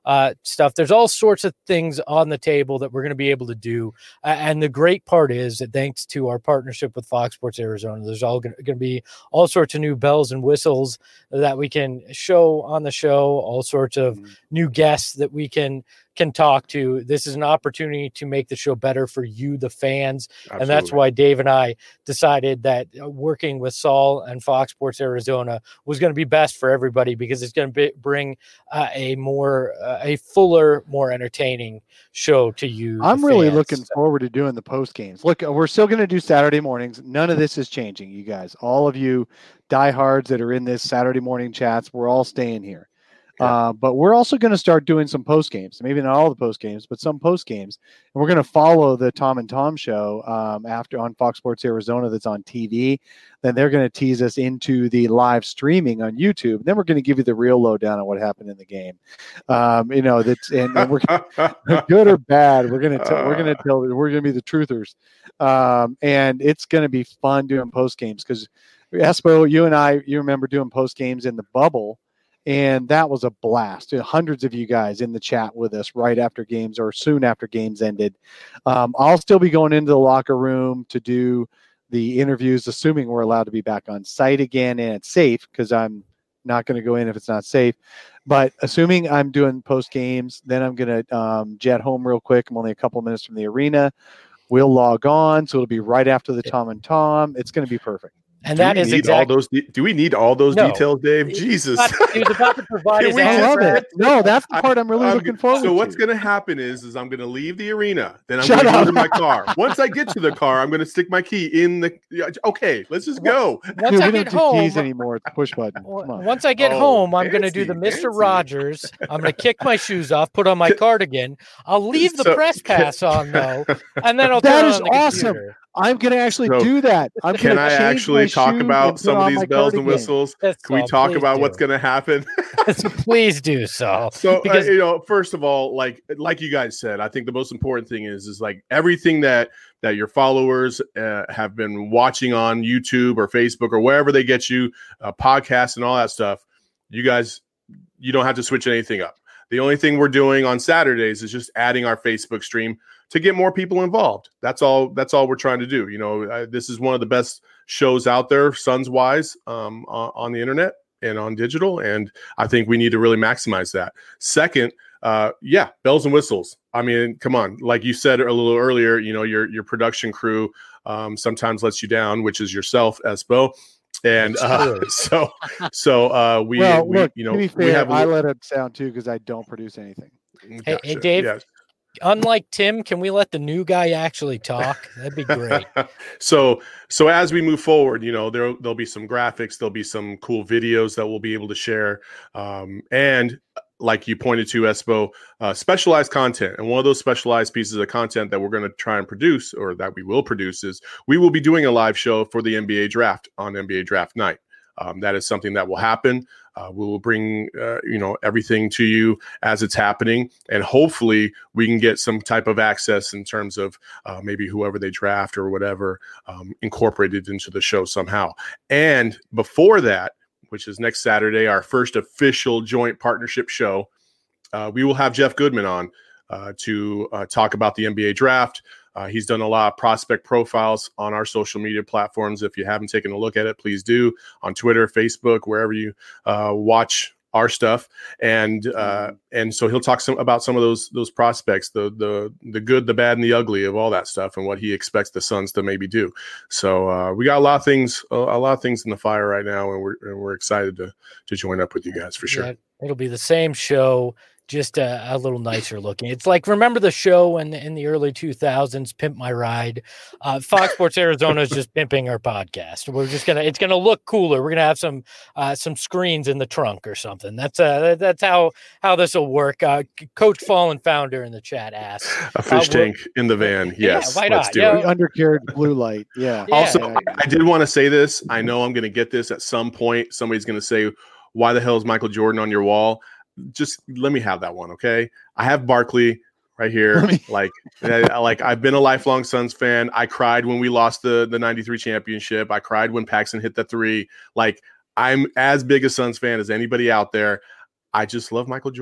uh, stuff. There's all sorts of things on the table that we're going to be able to do. Uh, and the great part is that thanks to our partnership with Fox Sports Arizona, there's all going to be all sorts of new bells and whistles that we can show on the show, all sorts of mm-hmm. new guests that we can can talk to. This is an opportunity to make the show better for you, the fans. Absolutely. And that's why Dave and I decided that working with Saul and Fox Sports Arizona was going to be best for everybody, because it's going to be, bring uh, a more, uh, a fuller, more entertaining show to you. I'm really fans. looking forward to doing the post games. Look, we're still going to do Saturday mornings. None of this is changing, you guys. All of you diehards that are in this Saturday morning chats, we're all staying here. Uh, but we're also going to start doing some post games, maybe not all the post games, but some post games. And we're going to follow the Tom and Tom show um, after on Fox Sports Arizona that's on T V. Then they're going to tease us into the live streaming on YouTube. And then we're going to give you the real lowdown on what happened in the game. Um, you know, that's and, and we're good or bad. We're going to we're going to tell we're going to be the truthers, um, and it's going to be fun doing post games because Espo, you and I, you remember doing post games in the bubble. And that was a blast. Hundreds of you guys in the chat with us right after games or soon after games ended. Um, I'll still be going into the locker room to do the interviews, assuming we're allowed to be back on site again and it's safe, because I'm not going to go in if it's not safe. But assuming I'm doing post games, then I'm going to um, jet home real quick. I'm only a couple minutes from the arena. We'll log on. So it'll be right after the Tom and Tom. It's going to be perfect. And do that is exactly all those. De- do we need all those no. details, Dave? He, Jesus, he was about to provide his I love it. No, that's the part I'm really I'm, looking forward so to. So what's going to happen is, is I'm going to leave the arena. Then I'm going to go to my car. Once I get to the car, I'm going to stick my key in the. Okay, let's just go. Once Dude, I we get don't do home, keys anymore. It's push button. Come on. Once I get oh, home, I'm fancy, going to do the Mister fancy. Rogers. I'm going to kick my shoes off, put on my cardigan. I'll leave the so, press pass on though, and then I'll that turn is on the awesome. computer. I'm going to actually so, do that. I'm can I actually talk about some of these bells and whistles? That's can we all. talk Please about do. what's going to happen? Please do so. So, because, uh, you know, first of all, like like you guys said, I think the most important thing is is like everything that that your followers uh, have been watching on YouTube or Facebook or wherever they get you, uh, podcasts and all that stuff. You guys, you don't have to switch anything up. The only thing we're doing on Saturdays is just adding our Facebook stream to get more people involved. That's all. That's all we're trying to do. You know, I, this is one of the best shows out there, Suns wise, um, on, on the internet and on digital. And I think we need to really maximize that. Second, uh, yeah, bells and whistles. I mean, come on. Like you said a little earlier, you know, your your production crew um, sometimes lets you down, which is yourself, Espo. And uh, so, so uh, we, well, we look, you know, to be fair, we have. A I little... let it sound too because I don't produce anything. Hey, gotcha. hey Dave. Yes. Unlike Tim, can we let the new guy actually talk? That'd be great. so, so as we move forward, you know, there there'll be some graphics, there'll be some cool videos that we'll be able to share, um, and like you pointed to, Espo, uh, specialized content. And one of those specialized pieces of content that we're going to try and produce, or that we will produce, is we will be doing a live show for the N B A draft on N B A draft night. Um, that is something that will happen. Uh, we will bring, uh, you know, everything to you as it's happening, and hopefully we can get some type of access in terms of uh, maybe whoever they draft or whatever um, incorporated into the show somehow. And before that, which is next Saturday, our first official joint partnership show, uh, we will have Jeff Goodman on uh, to uh, talk about the N B A draft. Uh, he's done a lot of prospect profiles on our social media platforms. If you haven't taken a look at it, please do, on Twitter, Facebook, wherever you uh, watch our stuff. And uh, and so he'll talk some about some of those those prospects, the the the good, the bad, and the ugly of all that stuff, and what he expects the Suns to maybe do. So uh, we got a lot of things, a, a lot of things in the fire right now, and we're and we're excited to to join up with you guys for sure. Yeah, it'll be the same show, just a, a little nicer looking. It's like, remember the show in the, in the early two thousands, Pimp My Ride? Uh, Fox Sports Arizona is just pimping our podcast. We're just gonna, it's gonna look cooler. We're gonna have some uh, some screens in the trunk or something. That's uh, that's how how this will work. Uh, Coach Fallen Founder in the chat asks a fish uh, tank in the van. Yes, yeah, why let's not? do yeah. it. Undercarriage blue light. Yeah. Yeah. Also, yeah. I did want to say this. I know I'm going to get this at some point. Somebody's going to say, "Why the hell is Michael Jordan on your wall?" Just let me have that one, okay? I have Barkley right here. Me... Like, like I've been a lifelong Suns fan. I cried when we lost the the ninety-three championship. I cried when Paxson hit the three. Like, I'm as big a Suns fan as anybody out there. I just love Michael Jordan.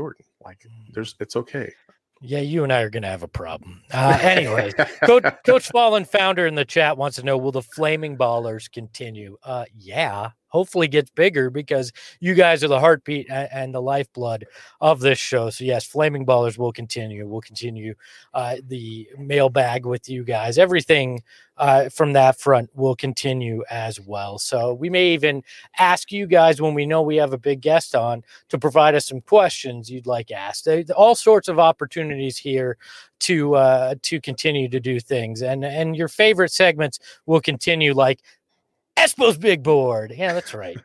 Like, there's, it's okay. Yeah, you and I are going to have a problem. Uh, anyways, Coach, Coach Fallen Founder in the chat wants to know, will the Flaming Ballers continue? Uh, yeah, hopefully gets bigger because you guys are the heartbeat and, and the lifeblood of this show. So yes, Flaming Ballers will continue. We'll continue uh, the mailbag with you guys. Everything uh, from that front will continue as well. So we may even ask you guys when we know we have a big guest on to provide us some questions you'd like asked. All sorts of opportunities here to uh, to continue to do things, and and your favorite segments will continue, like Espo's Big Board. Yeah, that's right.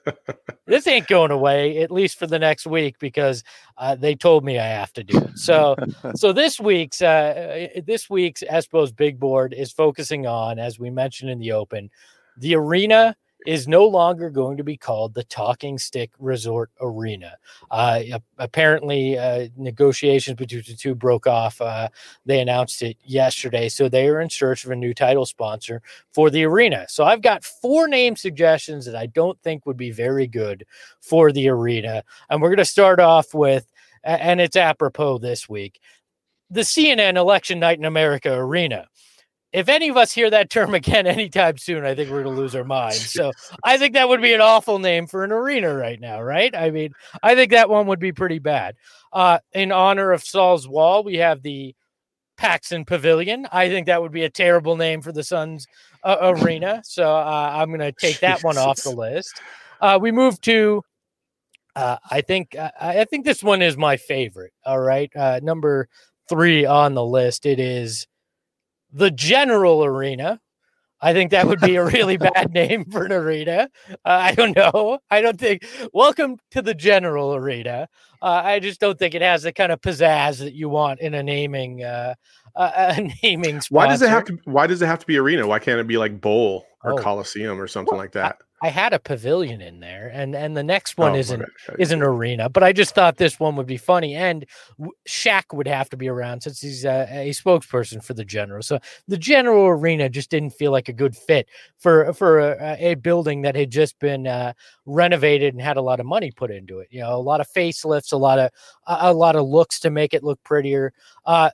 This ain't going away, at least for the next week, because uh, they told me I have to do it. So, so this week's uh, this week's Espo's Big Board is focusing on, as we mentioned in the open, the arena is no longer going to be called the Talking Stick Resort Arena. Uh, apparently, uh, negotiations between the two broke off. Uh, they announced it yesterday, so they are in search of a new title sponsor for the arena. So I've got four name suggestions that I don't think would be very good for the arena, and we're going to start off with, and it's apropos this week, the C N N Election Night in America Arena. If any of us hear that term again anytime soon, I think we're going to lose our minds. So I think that would be an awful name for an arena right now, right? I mean, I think that one would be pretty bad. Uh, in honor of Saul's Wall, we have the Paxson Pavilion. I think that would be a terrible name for the Suns uh, arena. So uh, I'm going to take that one off the list. Uh, we move to, uh, I think, uh, I think this one is my favorite. All right. Uh, number three on the list. It is the General Arena. I think that would be a really bad name for an arena. Uh, I don't know. I don't think. Welcome to the General Arena. Uh, I just don't think it has the kind of pizzazz that you want in a naming, uh, uh, a naming sponsor. Why does it have to? Why does it have to be arena? Why can't it be like Bowl or Oh. Coliseum or something Well, like that? I had a pavilion in there, and and the next one Oh, isn't okay, okay. is an arena. But I just thought this one would be funny, and w- Shaq would have to be around since he's uh, a spokesperson for the General. So the General Arena just didn't feel like a good fit for for a, a building that had just been uh, renovated and had a lot of money put into it. You know, a lot of facelifts, a lot of a, a lot of looks to make it look prettier. Uh,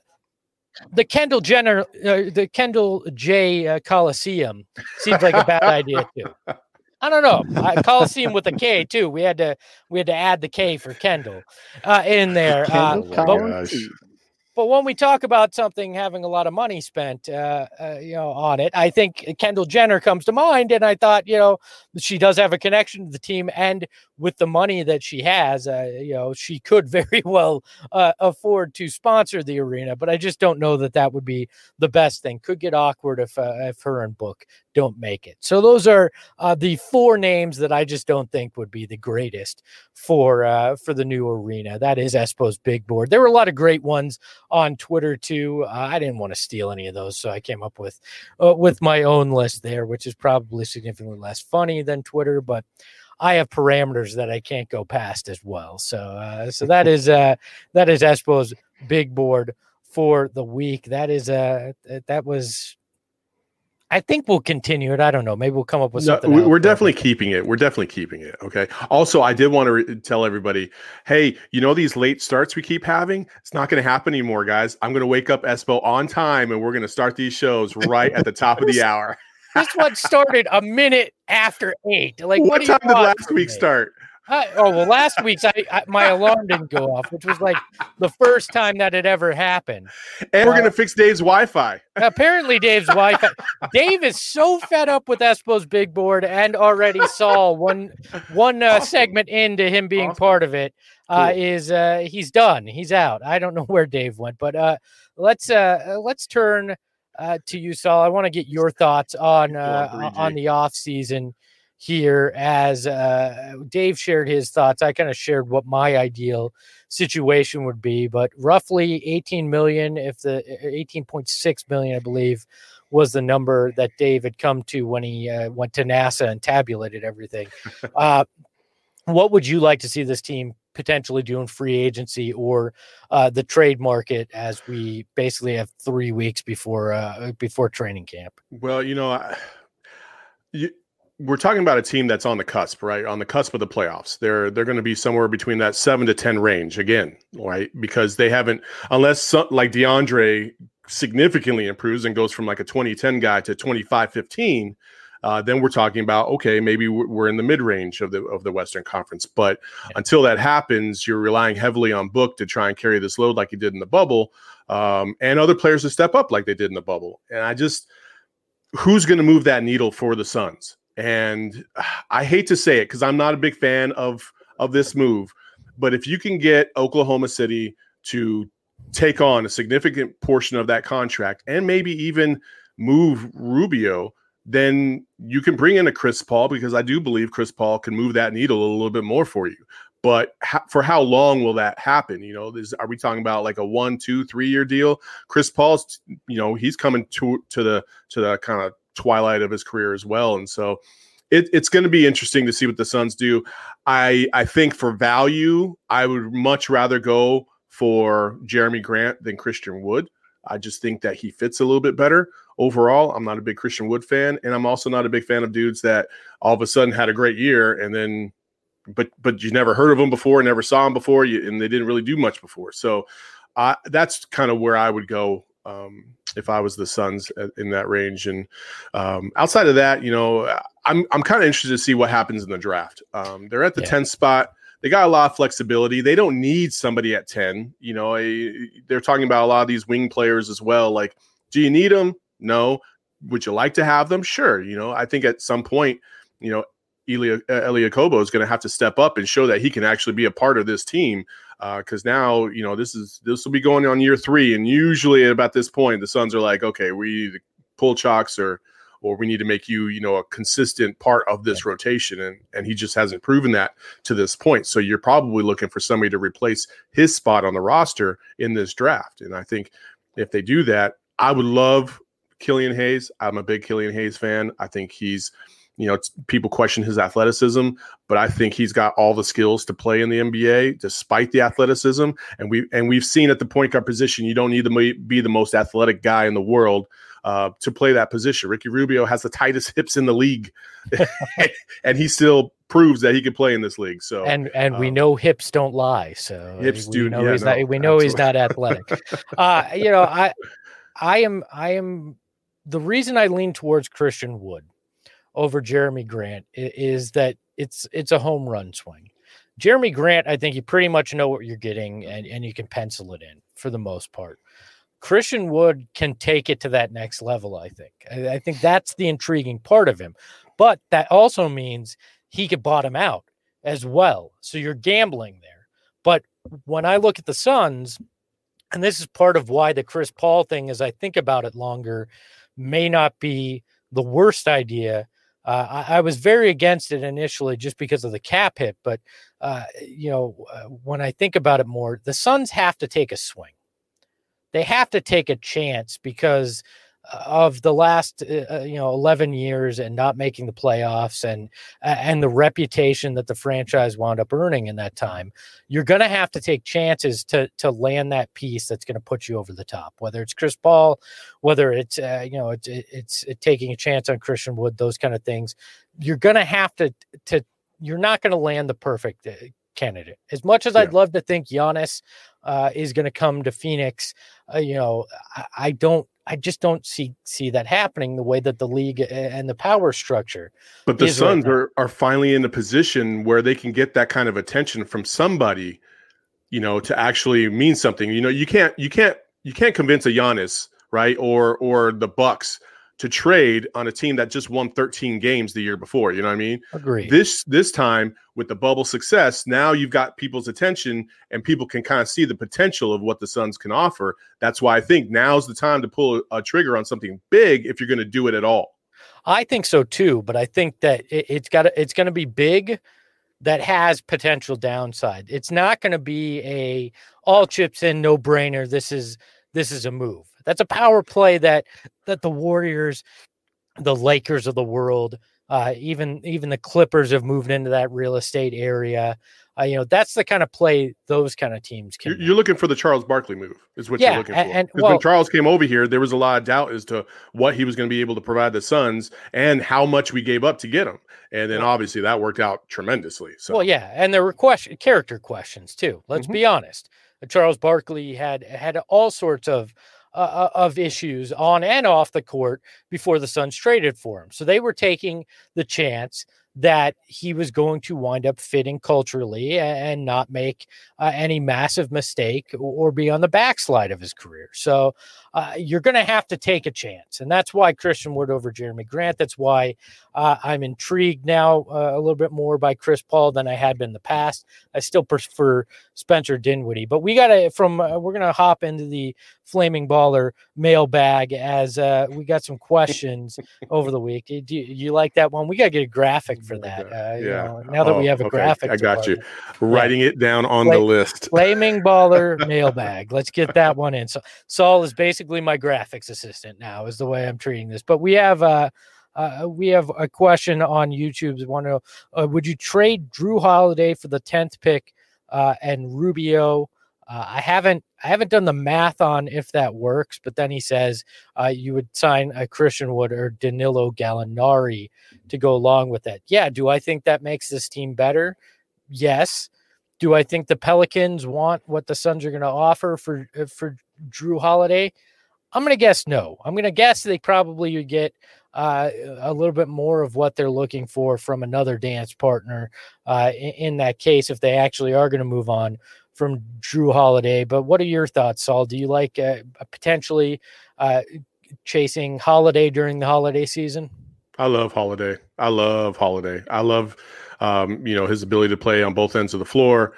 the Kendall Jenner, uh, the Kendall J uh, Coliseum seems like a bad idea too. I don't know. I Coliseum with a K too. We had to we had to add the K for Kendall uh, in there. Uh, Kendall but, Collins. but when we talk about something having a lot of money spent, uh, uh, you know, on it, I think Kendall Jenner comes to mind. And I thought, you know, she does have a connection to the team, and with the money that she has, uh, you know, she could very well uh, afford to sponsor the arena. But I just don't know that that would be the best thing. Could get awkward if uh, if her and Book don't make it. So those are uh, the four names that I just don't think would be the greatest for uh, for the new arena. That is Espo's Big Board. There were a lot of great ones on Twitter too. Uh, I didn't want to steal any of those, so I came up with uh, with my own list there, which is probably significantly less funny than Twitter, but I have parameters that I can't go past as well. So uh, so that is uh, that is Espo's Big Board for the week. That is uh, that was. I think we'll continue it. I don't know. Maybe we'll come up with No, something. we- else. we're definitely keeping it. We're definitely keeping it. Okay. Also, I did want to re- tell everybody, hey, you know, these late starts we keep having, it's not going to happen anymore, guys. I'm going to wake up Espo on time, and we're going to start these shows right at the top of the hour. This one started a minute after eight. Like, What, what, do you time did want last from week me? start? I, oh well, last week's I, I my alarm didn't go off, which was like the first time that had ever happened. And we're Uh, going to fix Dave's Wi-Fi. Apparently, Dave's wife, Dave is so fed up with Espo's Big Board, and already saw one one uh, Awesome. segment into him being Awesome. part of it. Uh, Cool. is uh, he's done? He's out. I don't know where Dave went, but uh, let's uh, let's turn uh, to you, Saul. I want to get your thoughts on uh, Go on, on Bree G. the off season here. As uh, Dave shared his thoughts, I kind of shared what my ideal situation would be, but roughly eighteen million, if the eighteen point six million, I believe, was the number that Dave had come to when he uh, went to NASA and tabulated everything. Uh, what would you like to see this team potentially do in free agency or uh, the trade market, as we basically have three weeks before uh, before training camp? Well, you know, I, you, we're talking about a team that's on the cusp, right? On the cusp of the playoffs. They're they're going to be somewhere between that seven to ten range again, right? Because they haven't, unless some, like DeAndre significantly improves and goes from like a twenty ten guy to twenty-five fifteen, uh, then we're talking about, okay, maybe we're in the mid range of the of the Western Conference. But yeah. until that happens, you're relying heavily on Book to try and carry this load like he did in the bubble, um, and other players to step up like they did in the bubble. And I just, who's going to move that needle for the Suns? And I hate to say it because I'm not a big fan of of this move, but if you can get Oklahoma City to take on a significant portion of that contract and maybe even move Rubio, then you can bring in a Chris Paul, because I do believe Chris Paul can move that needle a little bit more for you. But ha- for how long will that happen? You know, is, are we talking about like a one, two, three year deal? Chris Paul's, you know, he's coming to to the to the kind of twilight of his career as well, and so it, it's going to be interesting to see what the Suns do. I I think for value, I would much rather go for Jeremy Grant than Christian Wood. I just think that he fits a little bit better overall. I'm not a big Christian Wood fan, and I'm also not a big fan of dudes that all of a sudden had a great year and then, but but you never heard of them before, never saw them before, you, and they didn't really do much before. So uh, that's kind of where I would go um, if I was the Suns in that range. And um, outside of that, you know, I'm I'm kind of interested to see what happens in the draft. Um, they're at the yeah. tenth spot. They got a lot of flexibility. They don't need somebody at ten. You know, a, they're talking about a lot of these wing players as well. Like, do you need them? No. Would you like to have them? Sure. You know, I think at some point, you know, Elia, Elia Kobo is going to have to step up and show that he can actually be a part of this team. Because uh, now, you know, this is this will be going on year three, and usually at about this point, the Suns are like, okay, we either pull chalks or or we need to make you, you know, a consistent part of this rotation. And, and he just hasn't proven that to this point. So you're probably looking for somebody to replace his spot on the roster in this draft. And I think if they do that, I would love Killian Hayes. I'm a big Killian Hayes fan. I think he's, you know, it's, people question his athleticism, but I think he's got all the skills to play in the N B A despite the athleticism. And we, and we've seen at the point guard position, you don't need to be the most athletic guy in the world Uh, to play that position. Ricky Rubio has the tightest hips in the league, and he still proves that he can play in this league. So, and and um, we know hips don't lie. So hips we do. Know yeah, he's no, not, we know absolutely. he's not athletic. uh, you know, I, I am, I am. The reason I lean towards Christian Wood over Jeremy Grant is, is that it's it's a home run swing. Jeremy Grant, I think you pretty much know what you're getting, and and you can pencil it in for the most part. Christian Wood can take it to that next level, I think. I, I think that's the intriguing part of him. But that also means he could bottom out as well. So you're gambling there. But when I look at the Suns, and this is part of why the Chris Paul thing, as I think about it longer, may not be the worst idea. Uh, I, I was very against it initially just because of the cap hit. But, uh, you know, uh, when I think about it more, the Suns have to take a swing. They have to take a chance because of the last, uh, you know, eleven years and not making the playoffs and uh, and the reputation that the franchise wound up earning in that time. You're going to have to take chances to to land that piece that's going to put you over the top. Whether it's Chris Paul, whether it's uh, you know it's it's it taking a chance on Christian Wood, those kind of things. You're going to have to to. You're not going to land the perfect uh, candidate. As much as yeah. I'd love to think Giannis uh, is going to come to Phoenix, uh, you know, I, I don't, I just don't see see that happening the way that the league and the power structure. But the Suns right are are finally in a position where they can get that kind of attention from somebody, you know, to actually mean something. You know, you can't, you can't, you can't convince a Giannis, right, or or the Bucks to trade on a team that just won thirteen games the year before. You know what I mean? Agree. This this time with the bubble success, now you've got people's attention and people can kind of see the potential of what the Suns can offer. That's why I think now's the time to pull a, a trigger on something big if you're going to do it at all. I think so too, but I think that it, it's got it's going to be big that has potential downside. It's not going to be a all chips in, no brainer. This is this is a move. That's a power play that that the Warriors, the Lakers of the world, Uh, even even the Clippers have moved into that real estate area. Uh, you know, that's the kind of play those kind of teams can. You're, you're looking for the Charles Barkley move, is what yeah, you're looking for. And, Because well, when Charles came over here, there was a lot of doubt as to what he was going to be able to provide the Suns and how much we gave up to get him. And then obviously that worked out tremendously. So well, yeah, and there were question character questions too. Let's Mhm. be honest. Charles Barkley had had all sorts of uh, of issues on and off the court before the Suns traded for him. So they were taking the chance that he was going to wind up fitting culturally and not make uh, any massive mistake or be on the backslide of his career. So uh, you're going to have to take a chance. And that's why Christian Wood over Jeremy Grant. That's why uh, I'm intrigued now uh, a little bit more by Chris Paul than I had been in the past. I still prefer Spencer Dinwiddie, but we got to from uh, we're going to hop into the Flaming Baller mailbag as uh, we got some questions over the week. Do you, you like that one? We got to get a graphic for that. Uh, you yeah. know, now that Oh, we have a okay. graphic, I got you. department. Writing it down on Fla- the list. Flaming Baller mailbag. Let's get that one in. So Saul is basically my graphics assistant now, is the way I'm treating this. But we have uh, uh we have a question on YouTube. Want to know, uh, would you trade Drew Holiday for the tenth pick uh, and Rubio? Uh, I haven't I haven't done the math on if that works, but then he says uh, you would sign a Christian Wood or Danilo Gallinari to go along with that. Yeah. Do I think that makes this team better? Yes. Do I think the Pelicans want what the Suns are going to offer for uh, for Drew Holiday? I'm going to guess no. I'm going to guess they probably would get uh, a little bit more of what they're looking for from another dance partner uh, in, in that case if they actually are going to move on from Drew Holiday. But what are your thoughts, Saul? Do you like uh, potentially uh, chasing Holiday during the holiday season? I love Holiday. I love Holiday. I love, um, you know, his ability to play on both ends of the floor.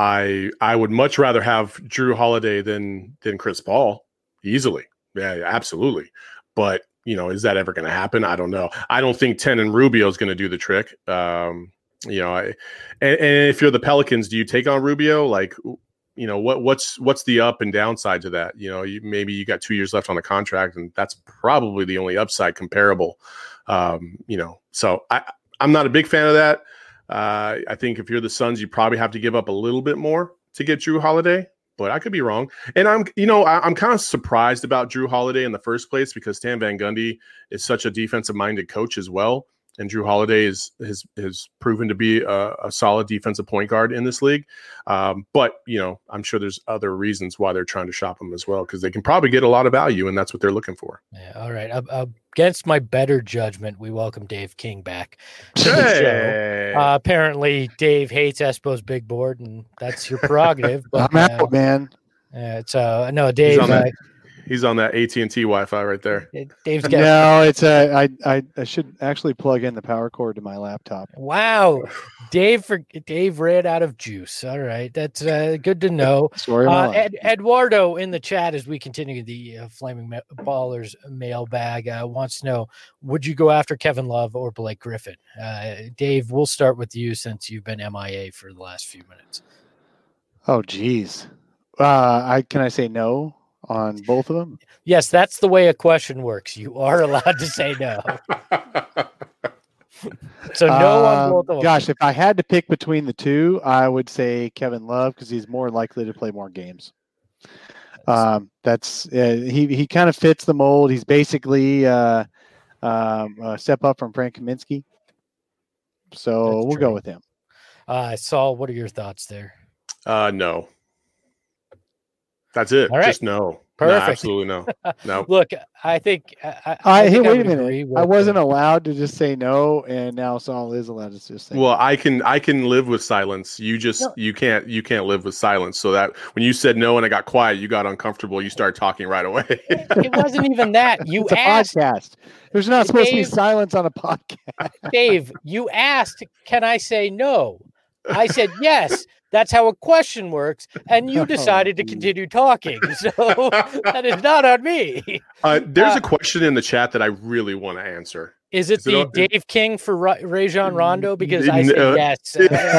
I I would much rather have Drew Holiday than than Chris Paul easily. Yeah, absolutely. But you know, is that ever going to happen? I don't know. I don't think ten and Rubio is going to do the trick. Um, you know, I, and, and if you're the Pelicans, do you take on Rubio? Like, you know, what what's what's the up and downside to that? You know, you, maybe you got two years left on the contract, and that's probably the only upside comparable. Um, you know, so I, I'm not a big fan of that. Uh, I think if you're the Suns, you probably have to give up a little bit more to get Drew Holiday, but I could be wrong. And I'm, you know, I, I'm kind of surprised about Drew Holiday in the first place because Stan Van Gundy is such a defensive-minded coach as well. And Drew Holiday is has has proven to be a, a solid defensive point guard in this league. Um, but, you know, I'm sure there's other reasons why they're trying to shop him as well, because they can probably get a lot of value, and that's what they're looking for. Yeah, all right. Uh, uh, against my better judgment, we welcome Dave King back to the Hey. show. Uh, apparently, Dave hates Espo's big board, and that's your prerogative. But, I'm out, uh, man. uh, it's uh, no, Dave. on that. Uh, He's on that A T and T Wi-Fi right there. Dave's got No, it's a. I, I I should actually plug in the power cord to my laptop. wow. Dave for Dave ran out of juice. All right, that's uh, good to know. Story of my Uh, life. Ed, Eduardo in the chat as we continue the uh, Flaming Ma- Ballers mailbag uh, wants to know: would you go after Kevin Love or Blake Griffin? Uh, Dave, we'll start with you since you've been M I A for the last few minutes. Oh, geez. Uh, I can I say no on both of them? Yes, that's the way a question works. You are allowed to say no. So no on Um, both of them. Gosh, if I had to pick between the two, I would say Kevin Love because he's more likely to play more games. Um, that's uh, he. He kind of fits the mold. He's basically uh, um, a step up from Frank Kaminsky. So That's we'll true. go with him. Uh, Saul, what are your thoughts there? Uh, no. That's it. All right. Just no. Perfect. No, absolutely no. No. Look, I think I, I, I, hey, think wait a would minute. agree with, I wasn't uh, allowed to just say no, and now Saul is allowed to just say. Well, no. I can I can live with silence. You just No. you can't you can't live with silence. So that when you said no and I got quiet, you got uncomfortable. You started talking right away. It wasn't even that. You it's a asked, podcast. There's not supposed to be Dave- silence on a podcast. Dave, you asked, can I say no? I said yes. That's how a question works. And you Oh, decided to geez. continue talking. So that is not on me. Uh, there's Uh, a question in the chat that I really want to answer. Is it Is it the all- Dave King for Ra- Rajon Rondo? Because I said No. yes.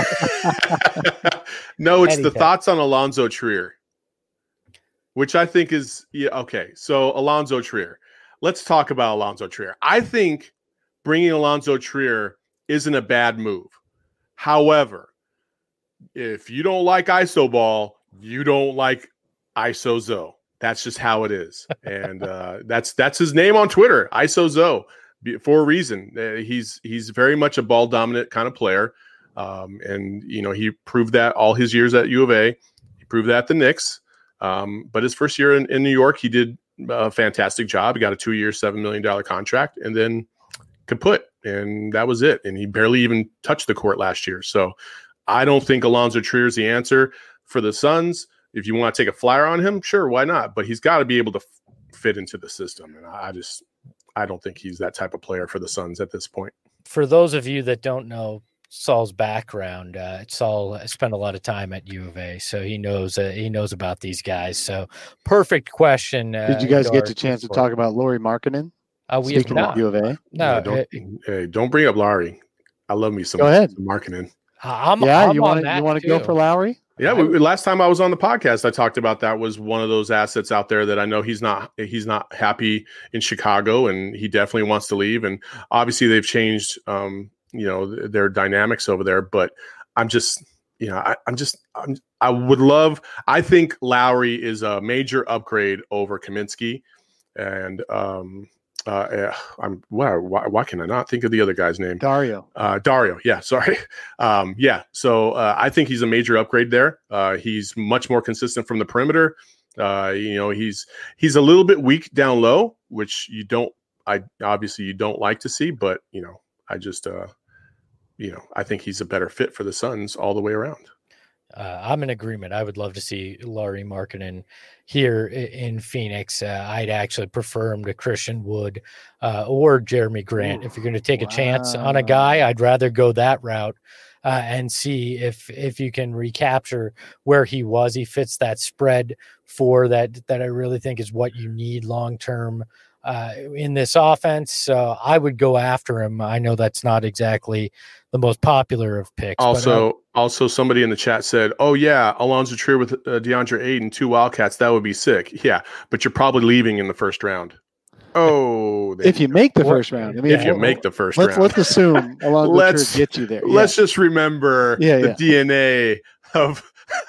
No, it's the Anytime. thoughts on Alonzo Trier, which I think is yeah, okay. So Alonzo Trier, let's talk about Alonzo Trier. I think bringing Alonzo Trier isn't a bad move. However, if you don't like iso ball, you don't like iso Zoe. That's just how it is. And uh, that's that's his name on Twitter, iso Zoe, for a reason. Uh, he's he's very much a ball dominant kind of player. Um, and, you know, he proved that all his years at U of A. He proved that at the Knicks. Um, but his first year in, in New York, he did a fantastic job. He got a two-year, seven million dollars contract and then kaput. And that was it. And he barely even touched the court last year. So I don't think Alonzo Trier is the answer for the Suns. If you want to take a flyer on him, sure, why not? But he's got to be able to f- fit into the system. And I just I don't think he's that type of player for the Suns at this point. For those of you that don't know Saul's background, uh, Saul spent a lot of time at U of A, so he knows uh, he knows about these guys. So perfect question. Uh, Did you guys get a chance to talk about Lauri Markkanen? Uh, we Speaking have of not. U of A, No, Yeah, don't, it- hey, don't bring up Lowry. I love me some, Go ahead. some Markkanen. I'm, yeah, I'm you on want to that you want to go too. for Lowry? Yeah, we, last time I was on the podcast, I talked about that was one of those assets out there that I know he's not he's not happy in Chicago, and he definitely wants to leave. And obviously, they've changed, um, you know, th- their dynamics over there. But I'm just, you know, I, I'm just, I'm, I would love. I think Lowry is a major upgrade over Kaminsky, and um, uh, eh, I'm why, why why can I not think of the other guy's name? Dario. Uh, Dario, yeah, sorry. Um, yeah, so uh, I think he's a major upgrade there. Uh, he's much more consistent from the perimeter. Uh, you know, he's he's a little bit weak down low, which you don't, I obviously you don't like to see, but you know, I just, uh, you know, I think he's a better fit for the Suns all the way around. Uh, I'm in agreement. I would love to see Lauri Markkanen here i- in Phoenix. Uh, I'd actually prefer him to Christian Wood uh, or Jeremy Grant. Ooh, If you're going to take a chance on a guy, I'd rather go that route uh, and see if if you can recapture where he was. He fits that spread for that that I really think is what you need long term uh, in this offense. So I would go after him. I know that's not exactly the most popular of picks. but, uh, Also, also somebody in the chat said, "Oh yeah, Alonzo Trier with uh, DeAndre Ayton, two Wildcats, that would be sick." Yeah, but you're probably leaving in the first round. Oh, there If you make the What- first round, I mean, if you what- make the first let's round, let's assume Alonzo Let's- Trier gets you there. let's just remember Yeah, the yeah. D N A of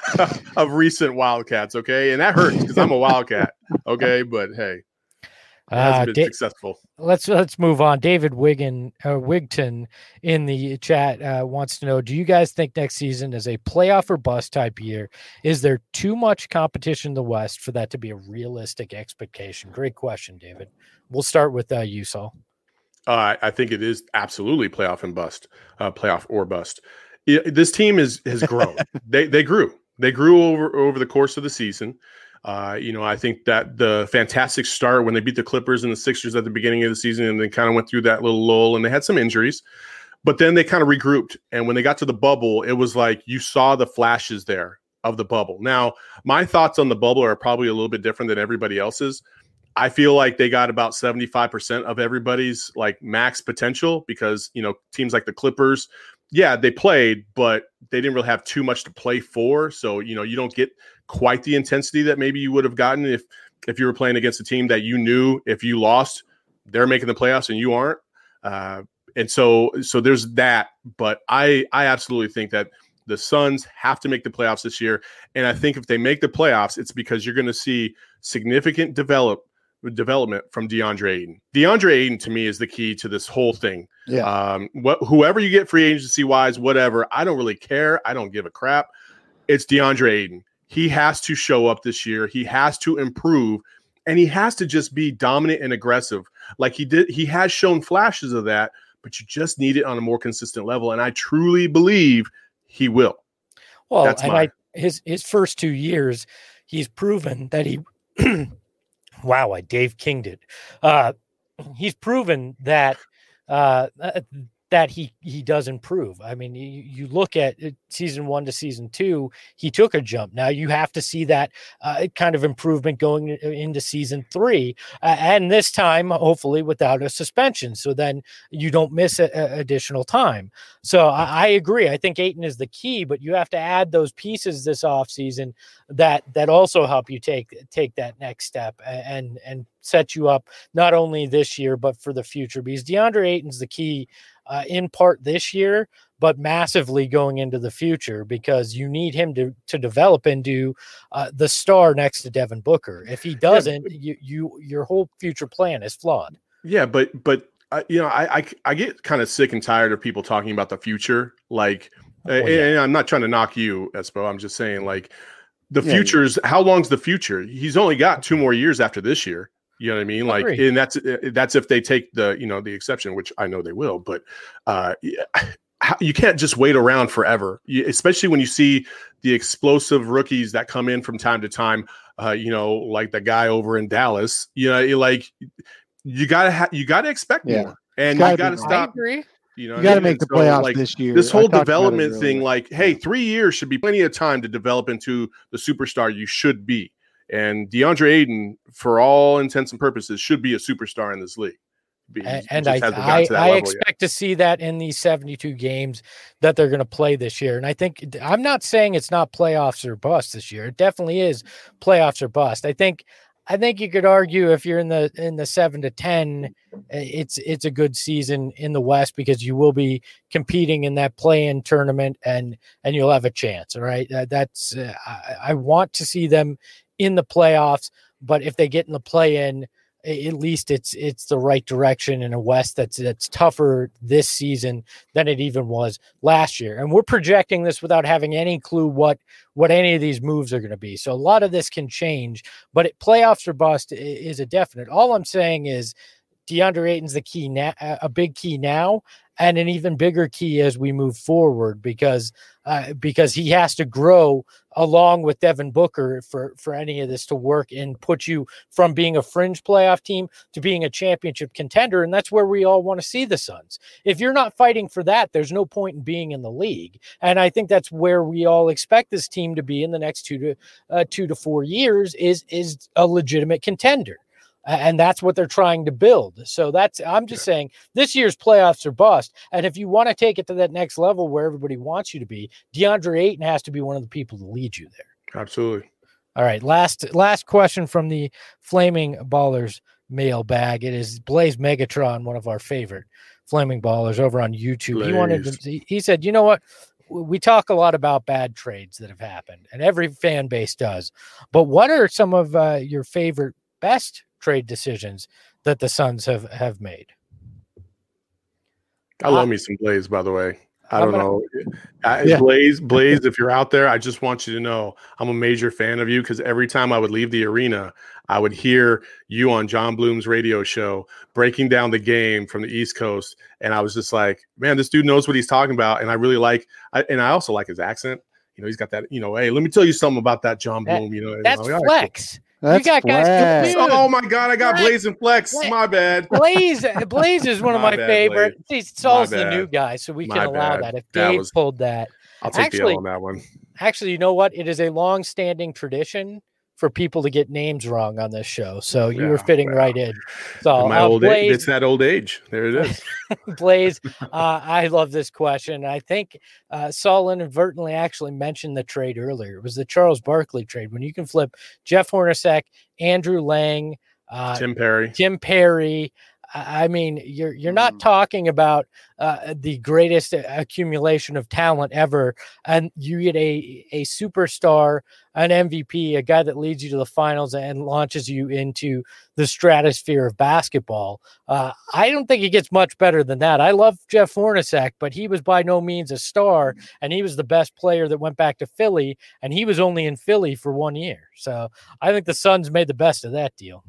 of recent Wildcats, okay? And that hurts because I'm a Wildcat, okay? But hey, it uh, hasn't been Da- successful. Let's let's move on. David Wiggin uh, Wigton in the chat uh, wants to know: do you guys think next season is a playoff or bust type year? Is there too much competition in the West for that to be a realistic expectation? Great question, David. We'll start with uh, you, Saul. Uh, I think it is absolutely playoff and bust, uh, playoff or bust. It- this team is has grown. they they grew. They grew over over the course of the season. Uh, you know, I think that the fantastic start when they beat the Clippers and the Sixers at the beginning of the season, and they kind of went through that little lull, and they had some injuries, but then they kind of regrouped. And when they got to the bubble, it was like you saw the flashes there of the bubble. Now, my thoughts on the bubble are probably a little bit different than everybody else's. I feel like they got about seventy-five percent of everybody's like max potential because, you know, teams like the Clippers, yeah, they played, but they didn't really have too much to play for. So, you know, you don't get quite the intensity that maybe you would have gotten if if you were playing against a team that you knew if you lost, they're making the playoffs and you aren't. Uh, and so so there's that. But I I absolutely think that the Suns have to make the playoffs this year. And I think if they make the playoffs, it's because you're going to see significant develop development from DeAndre Ayton. DeAndre Ayton to me is the key to this whole thing. Yeah. Um, what whoever you get free agency wise, whatever, I don't really care. I don't give a crap. It's DeAndre Ayton. He has to show up this year. He has to improve, and he has to just be dominant and aggressive. Like he did, he has shown flashes of that, but you just need it on a more consistent level. And I truly believe he will. Well, That's and my- I, his his first two years, he's proven that he. Wow, I Dave Kinged it. Uh, he's proven that uh, that he he does improve. I mean, you, you look at it, season one to season two, he took a jump. Now you have to see that uh, kind of improvement going into season three, uh, and this time hopefully without a suspension. So then you don't miss a, a additional time. So I, I agree. I think Ayton is the key, but you have to add those pieces this offseason that that also help you take take that next step and and set you up not only this year, but for the future, because DeAndre Ayton's the key uh, in part this year, but massively going into the future, because you need him to, to develop into uh, the star next to Devin Booker. If he doesn't, yeah. you, you, your whole future plan is flawed. Yeah. But, but, uh, you know, I, I, I get kind of sick and tired of people talking about the future. Like, oh, and, yeah. and I'm not trying to knock you, Espo. I'm just saying, like, the yeah, future's yeah. how long's the future? He's only got two more years after this year. You know what I mean? Like, I and that's, that's if they take the, you know, the exception, which I know they will, but uh, you can't just wait around forever, you, especially when you see the explosive rookies that come in from time to time, uh, you know, like the guy over in Dallas, you know, like you gotta, ha- you gotta expect yeah. more, and you gotta stop. I agree. You know, you got to make the so, playoffs like, this year. This whole development thing, like, hey, three years should be plenty of time to develop into the superstar you should be. And DeAndre Ayton, for all intents and purposes, should be a superstar in this league. He, and he and I, I, I expect yet. to see that in these seventy-two games that they're going to play this year. And I think I'm not saying it's not playoffs or bust this year. It definitely is playoffs or bust. I think. I think you could argue if you're in the in the seven to ten, it's it's a good season in the West, because you will be competing in that play-in tournament, and and you'll have a chance. All right, that, that's uh, I, I want to see them in the playoffs, but if they get in the play-in, at least it's it's the right direction in a West that's that's tougher this season than it even was last year. And we're projecting this without having any clue what what any of these moves are going to be. So a lot of this can change, but it, playoffs or bust is a definite. All I'm saying is DeAndre Ayton's the key now, a big key now, and an even bigger key as we move forward, because uh, because he has to grow along with Devin Booker for, for any of this to work and put you from being a fringe playoff team to being a championship contender. And that's where we all want to see the Suns. If you're not fighting for that, there's no point in being in the league. And I think that's where we all expect this team to be in the next two to uh, two to four years is, is a legitimate contender. And that's what they're trying to build. So that's, I'm just yeah. saying this year's playoffs are bust. And if you want to take it to that next level where everybody wants you to be, DeAndre Ayton has to be one of the people to lead you there. Absolutely. All right. Last, last question from the Flaming Ballers mailbag. It is Blaze Megatron, one of our favorite Flaming Ballers over on YouTube. Blaze. He wanted to, he said, you know what? We talk a lot about bad trades that have happened, and every fan base does. But what are some of uh, your favorite, best trade decisions that the Suns have, have made? I love uh, me some Blaze, by the way. I don't gonna, know. I, yeah. Blaze, Blaze, if you're out there, I just want you to know I'm a major fan of you, because every time I would leave the arena, I would hear you on John Bloom's radio show breaking down the game from the East Coast. And I was just like, man, this dude knows what he's talking about. And I really like, I, and I also like his accent. You know, he's got that, you know, hey, let me tell you something about that John Bloom. That, you know, that's you know, flex. That's you got guys. Oh my God, I got Blaze and Flex. Blaze. My bad. Blaze, Blaze is one of my, my favorite. He's Saul's the new guy, so we my can allow bad. that. If that Dave was, pulled that, I'll take actually, the L on that one. Actually, you know what? It is a long-standing tradition for people to get names wrong on this show. So you yeah, were fitting yeah. right in. So my uh, old Blaze, age, it's that old age. There it is. Blaze, uh, I love this question. I think uh, Saul inadvertently actually mentioned the trade earlier. It was the Charles Barkley trade, when you can flip Jeff Hornacek, Andrew Lang, uh, Tim Perry, Tim Perry. I mean, you're you're not talking about uh, the greatest accumulation of talent ever, and you get a a superstar, an M V P, a guy that leads you to the finals and launches you into the stratosphere of basketball. Uh, I don't think it gets much better than that. I love Jeff Hornacek, but he was by no means a star, and he was the best player that went back to Philly, and he was only in Philly for one year. So I think the Suns made the best of that deal.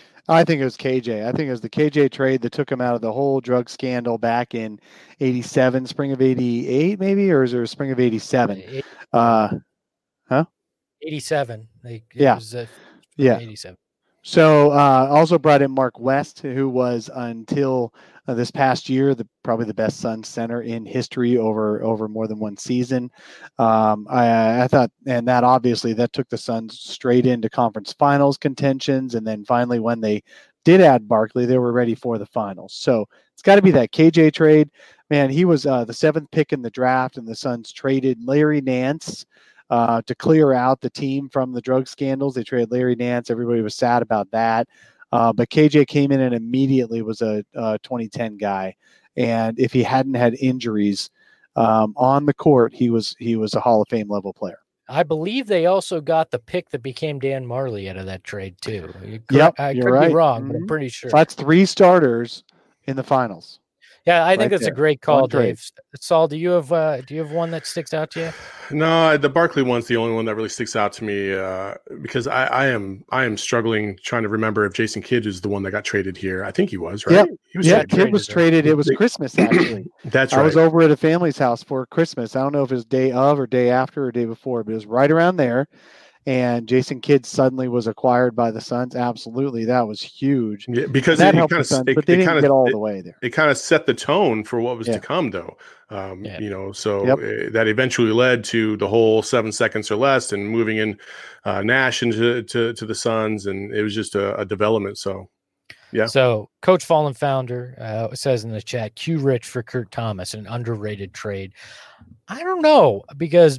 I think it was K J. I think it was the K J trade that took him out of the whole drug scandal back in eighty-seven, spring of eighty-eight, maybe, or is there a spring of eighty-seven? Uh, huh? eighty-seven. Like, yeah. Was, uh, yeah. eighty-seven. So uh, also brought in Mark West, who was until uh, this past year the probably the best Suns center in history over over more than one season. Um, I, I thought, and that obviously that took the Suns straight into conference finals contentions, and then finally when they did add Barkley, they were ready for the finals. So it's got to be that K J trade. Man, he was uh, the seventh pick in the draft, and the Suns traded Larry Nance Uh, to clear out the team from the drug scandals. They traded Larry Nance. Everybody was sad about that. Uh, but K J came in and immediately was a, a twenty ten guy. And if he hadn't had injuries um, on the court, he was he was a Hall of Fame level player. I believe they also got the pick that became Dan Marley out of that trade too. You could, Yep, I you're could right. be wrong, Mhm. but I'm pretty sure. So that's three starters in the finals. Yeah, I think right that's there. a great call, One trade. Dave. Saul, do you have uh, do you have one that sticks out to you? No, the Barkley one's the only one that really sticks out to me uh, because I, I am I am struggling trying to remember if Jason Kidd is the one that got traded here. I think he was, right? Yep. He was Yeah, traded. Kid was traded, traded. It was Christmas, actually. That's I right. was over at a family's house for Christmas. I don't know if it was day of or day after or day before, but it was right around there. And Jason Kidd suddenly was acquired by the Suns. Absolutely. That was huge. Yeah, because that it, helped kind the of, Suns, it, but they it didn't kind of get all it, the way there. It kind of set the tone for what was Yeah. to come, though. Um, Yeah. You know, so Yep. uh, that eventually led to the whole seven seconds or less, and moving in uh, Nash into to, to the Suns, and it was just a, a development. So, yeah. So, Coach Fallen Founder uh, says in the chat, Q Rich for Kurt Thomas, an underrated trade. I don't know, because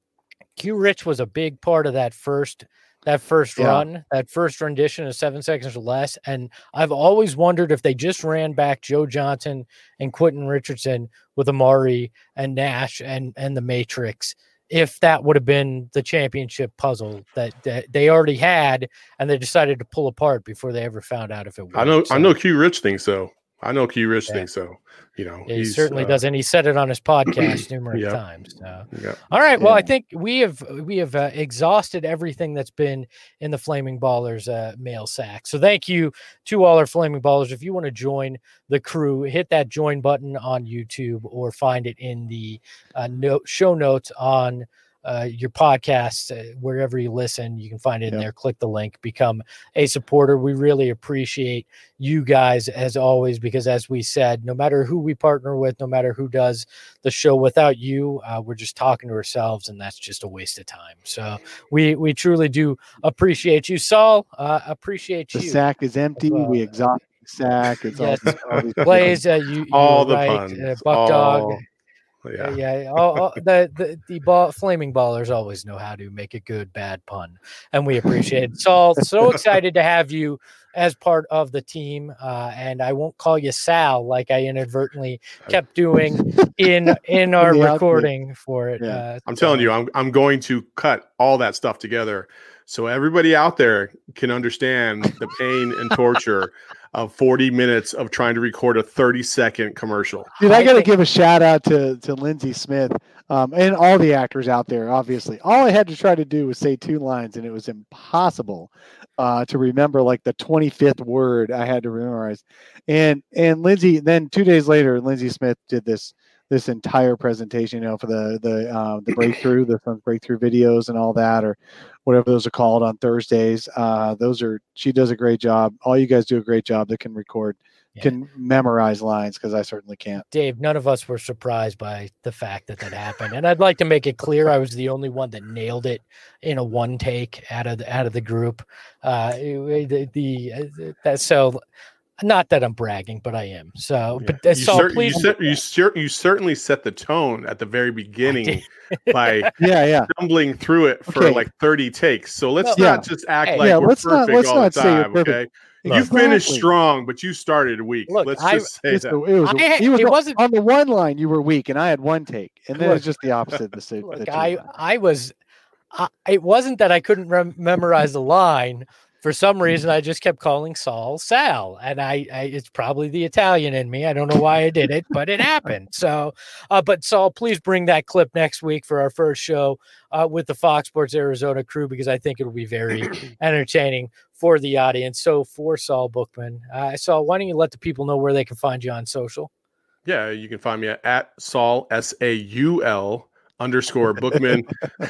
Q Rich was a big part of that first that first Yeah. run, that first rendition of seven seconds or less. And I've always wondered if they just ran back Joe Johnson and Quentin Richardson with Amari and Nash and and the Matrix, if that would have been the championship puzzle that, that they already had, and they decided to pull apart before they ever found out if it worked. I know, So, I know. Q Rich thinks so. I know Q Rich Yeah. thinks so. You know, he he's, certainly uh, does, and he said it on his podcast numerous Yep. times. So. Yeah. All right. Well, I Yeah. think we have we have uh, exhausted everything that's been in the Flaming Ballers uh, mail sack. So thank you to all our Flaming Ballers. If you want to join the crew, hit that join button on YouTube or find it in the uh, note, show notes on uh, your podcast, uh, wherever you listen. You can find it in Yep. there. Click the link, become a supporter. We really appreciate you guys as always, because as we said, no matter who we partner with, no matter who does the show, without you, uh, we're just talking to ourselves, and that's just a waste of time. So we we truly do appreciate you. Saul, uh, appreciate The you. sack is empty. Well, we exhausted the sack. It's yes. all, all these Blaze, uh, you, you All were the right. puns. Uh, Buck Dog. all- Uh, Yeah. yeah, all, all, the the the ball, flaming ballers always know how to make a good bad pun, and we appreciate it. Saul, so excited to have you as part of the team, uh, and I won't call you Sal like I inadvertently kept doing in in our the outfit. recording for it. Yeah. Uh, I'm so- telling you, I'm I'm going to cut all that stuff together so everybody out there can understand the pain and torture of forty minutes of trying to record a thirty second commercial. Dude, I, I got to think- give a shout out to to Lindsey Smith um, and all the actors out there. Obviously, all I had to try to do was say two lines, and it was impossible uh, to remember like the twenty-fifth word I had to memorize. And and Lindsey, then two days later, Lindsey Smith did this this entire presentation, you know, for the the uh, the breakthrough, the Suns breakthrough videos and all that, or whatever those are called on Thursdays. Uh, those are she does a great job. All you guys do a great job that can record. Yeah. Can memorize lines, because I certainly can't. Dave, none of us were surprised by the fact that that happened, and I'd like to make it clear I was the only one that nailed it in a one take out of the, out of the group. Uh, the, the uh, that so. Not that I'm bragging, but I am. So, Yeah. but uh, You, Saul, cer- please. you, cer- you, cer- you certainly set the tone at the very beginning by Yeah, yeah. stumbling through it for Okay. like thirty takes. So let's Well, not just act hey. like Yeah, we're let's not- perfect let's all not the say you're time. perfect. Okay, you Exactly. finished strong, but you started weak. Look, let's I- just say It's that. the- it was, I had- he was it on- wasn't- on the one line. You were weak, and I had one take, and then Look. it's just the opposite. The suit. Look, I, I was, I, it wasn't that I couldn't rem- memorize the line. For some reason, I just kept calling Saul Sal, and I, I, it's probably the Italian in me. I don't know why I did it, but it happened. So, uh, but Saul, please bring that clip next week for our first show uh, with the Fox Sports Arizona crew, because I think it'll be very entertaining for the audience. So, for Saul Bookman, uh, Saul, why don't you let the people know where they can find you on social? Yeah, you can find me at, at Saul S A U L underscore Bookman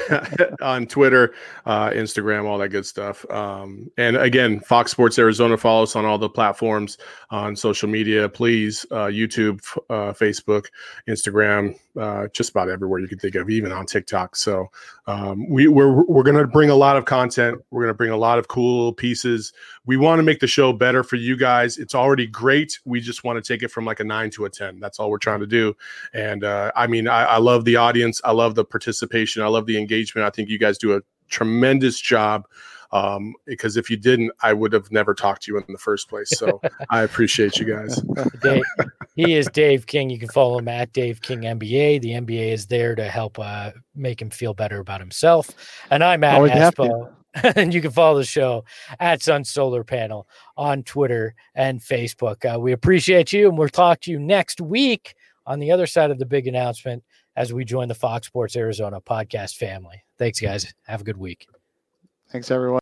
on Twitter, uh, Instagram, all that good stuff. Um, and again, Fox Sports Arizona, follow us on all the platforms on social media, please. Uh, YouTube, uh, Facebook, Instagram, uh, just about everywhere you can think of, even on TikTok. So um, we, we're we're going to bring a lot of content. We're going to bring a lot of cool pieces. We want to make the show better for you guys. It's already great. We just want to take it from like a nine to a ten. That's all we're trying to do. And uh, I mean, I, I love the audience. I love the participation. I love the engagement. I think you guys do a tremendous job Um, because if you didn't, I would have never talked to you in the first place. So I appreciate you guys. Dave, he is Dave King. You can follow him at Dave King N B A. The N B A is there to help uh, make him feel better about himself. And I'm Matt Espo. And you can follow the show at Sun Solar Panel on Twitter and Facebook. Uh, we appreciate you, and we'll talk to you next week on the other side of the big announcement as we join the Fox Sports Arizona podcast family. Thanks, guys. Have a good week. Thanks, everyone.